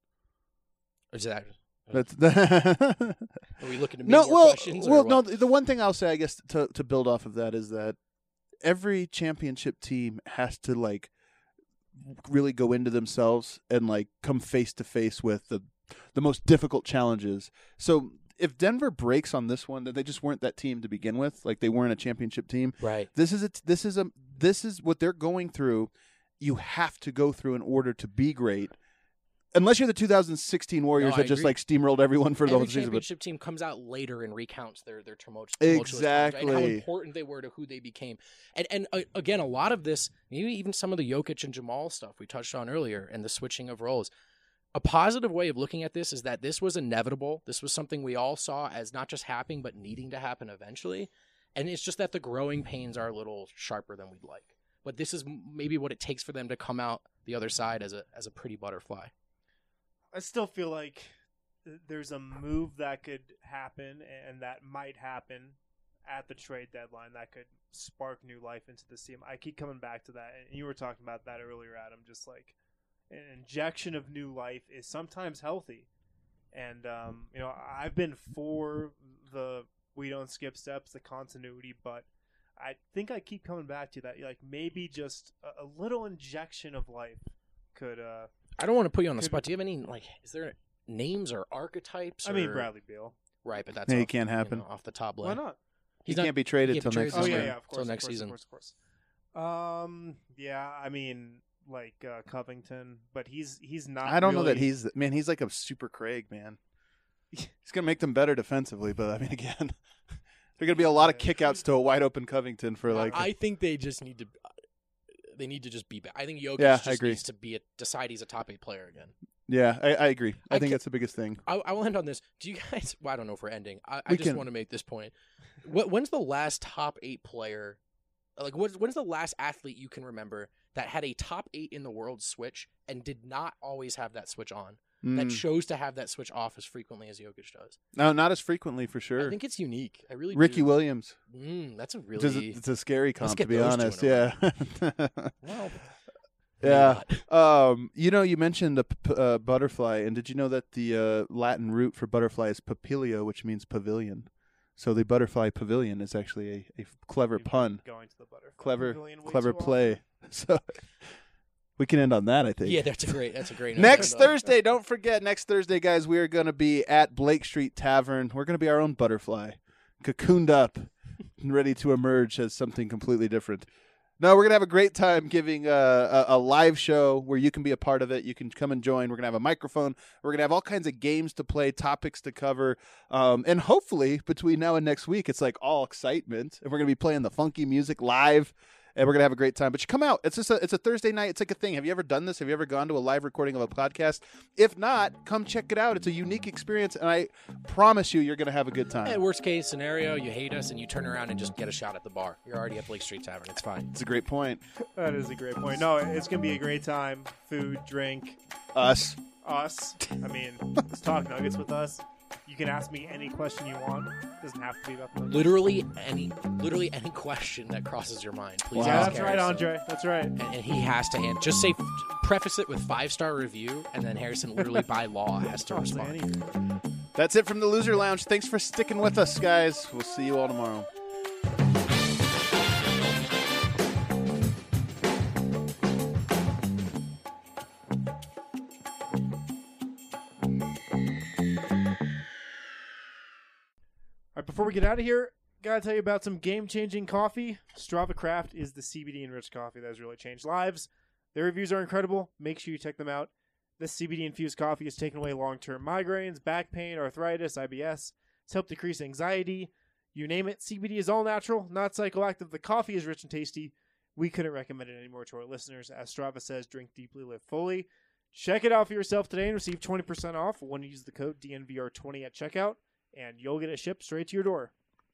Or is that? That's Are we looking to me no. more Well, questions? or well, what? no. The one thing I'll say, I guess, to to build off of that is that every championship team has to like really go into themselves and like come face to face with the the most difficult challenges. So if Denver breaks on this one, then they just weren't that team to begin with. Like they weren't a championship team. Right. This is a, this is a this is what they're going through. You have to go through in order to be great. Unless you're the two thousand sixteen Warriors No, I that just agree. like steamrolled everyone for the Every whole season. But championship team comes out later and recounts their their tumultuous, tumultuous times, and how Exactly. important they were to who they became. And and uh, again, a lot of this, maybe even some of the Jokic and Jamal stuff we touched on earlier, and the switching of roles. A positive way of looking at this is that this was inevitable. This was something we all saw as not just happening, but needing to happen eventually. And it's just that the growing pains are a little sharper than we'd like. But this is m- maybe what it takes for them to come out the other side as a as a pretty butterfly. I still feel like th- there's a move that could happen and that might happen at the trade deadline that could spark new life into this team. I keep coming back to that, and you were talking about that earlier, Adam. Just like an injection of new life is sometimes healthy. And, um, you know, I've been for the we don't skip steps, the continuity, but I think I keep coming back to that. Like, maybe just a, a little injection of life could. Uh, I don't want to put you on the could, spot. Do you have any, like, is there names or archetypes? I or... mean, Bradley Beal. Right, but that's Yeah, off, he can't happen. You know, off the top Why line. not? He He's not, can't be traded he till can't be next traded Oh, season. yeah, yeah, of course. Till next of course, season. Of course, of course. Um, yeah, I mean, like uh, Covington, but he's he's not. I don't know that really- he's man. He's like a super Craig man. He's gonna make them better defensively, but I mean, again, there are gonna be a lot of Yeah. kickouts to a wide open Covington for like. I think they just need to. They need to just be back. I think Jokic Yeah, I just agree. needs to be a, decide he's a top eight player again. yeah, I, I agree. I, I think ca- that's the biggest thing. I, I will end on this. Do you guys? Well, I don't know if we're ending. I, I We just can- want to make this point. What, when's the last top eight player? Like, what, when's the last athlete you can remember that had a top eight in the world switch and did not always have that switch on? That Mm. chose to have that switch off as frequently as Jokic does. No, not as frequently for I sure. think it's unique. I really Ricky do. Williams. Mm, that's a It's really a, it's a scary Let's comp, to get be those two honest. in Yeah. a well. Yeah. maybe not. Um, you know, you mentioned the p- uh, butterfly, and did you know that the uh, Latin root for butterfly is papilio, which means pavilion? So the butterfly pavilion is actually a, a clever We've been pun, Going to the butterfly clever, pavilion way clever too often. play. So we can end on that, I think. Yeah, that's a great. That's a great. note Next to end on. Thursday, don't forget, next Thursday, guys, we are going to be at Blake Street Tavern. We're going to be our own butterfly, cocooned up and ready to emerge as something completely different. No, we're going to have a great time giving uh, a, a live show where you can be a part of it. You can come and join. We're going to have a microphone. We're going to have all kinds of games to play, topics to cover. Um, and hopefully, between now and next week, it's like all excitement. And we're going to be playing the funky music live. And we're gonna have a great time. But you come out. It's just a, it's a Thursday night. It's like a thing. Have you ever done this? Have you ever gone to a live recording of a podcast? If not, come check it out. It's a unique experience, and I promise you, you're gonna have a good time. Yeah, worst case scenario, you hate us and you turn around and just get a shot at the bar. You're already at Blake Street Tavern. It's fine. It's a great point. That is a great point. No, it's gonna be a great time. Food, drink, Us. us. I mean, let's talk Nuggets with us. You can ask me any question you want. It doesn't have to be about the Nuggets. Literally any, literally any question that crosses your mind. Please Wow. Yeah, ask that's right, Harrison. Andre. That's right. And, and he has to answer. Just say, preface it with five star review, and then Harrison literally by law has to I'll say respond. anything. That's it from the Loser Lounge. Thanks for sticking with us, guys. We'll see you all tomorrow. All right, before we get out of here, gotta tell you about some game-changing coffee. Strava Craft is the C B D-enriched coffee that has really changed lives. Their reviews are incredible. Make sure you check them out. This C B D-infused coffee has taken away long-term migraines, back pain, arthritis, I B S. It's helped decrease anxiety. You name it, C B D is all natural, not psychoactive. The coffee is rich and tasty. We couldn't recommend it anymore to our listeners. As Strava says, drink deeply, live fully. Check it out for yourself today and receive twenty percent off when you use the code D N V R twenty at checkout, and you'll get it shipped straight to your door.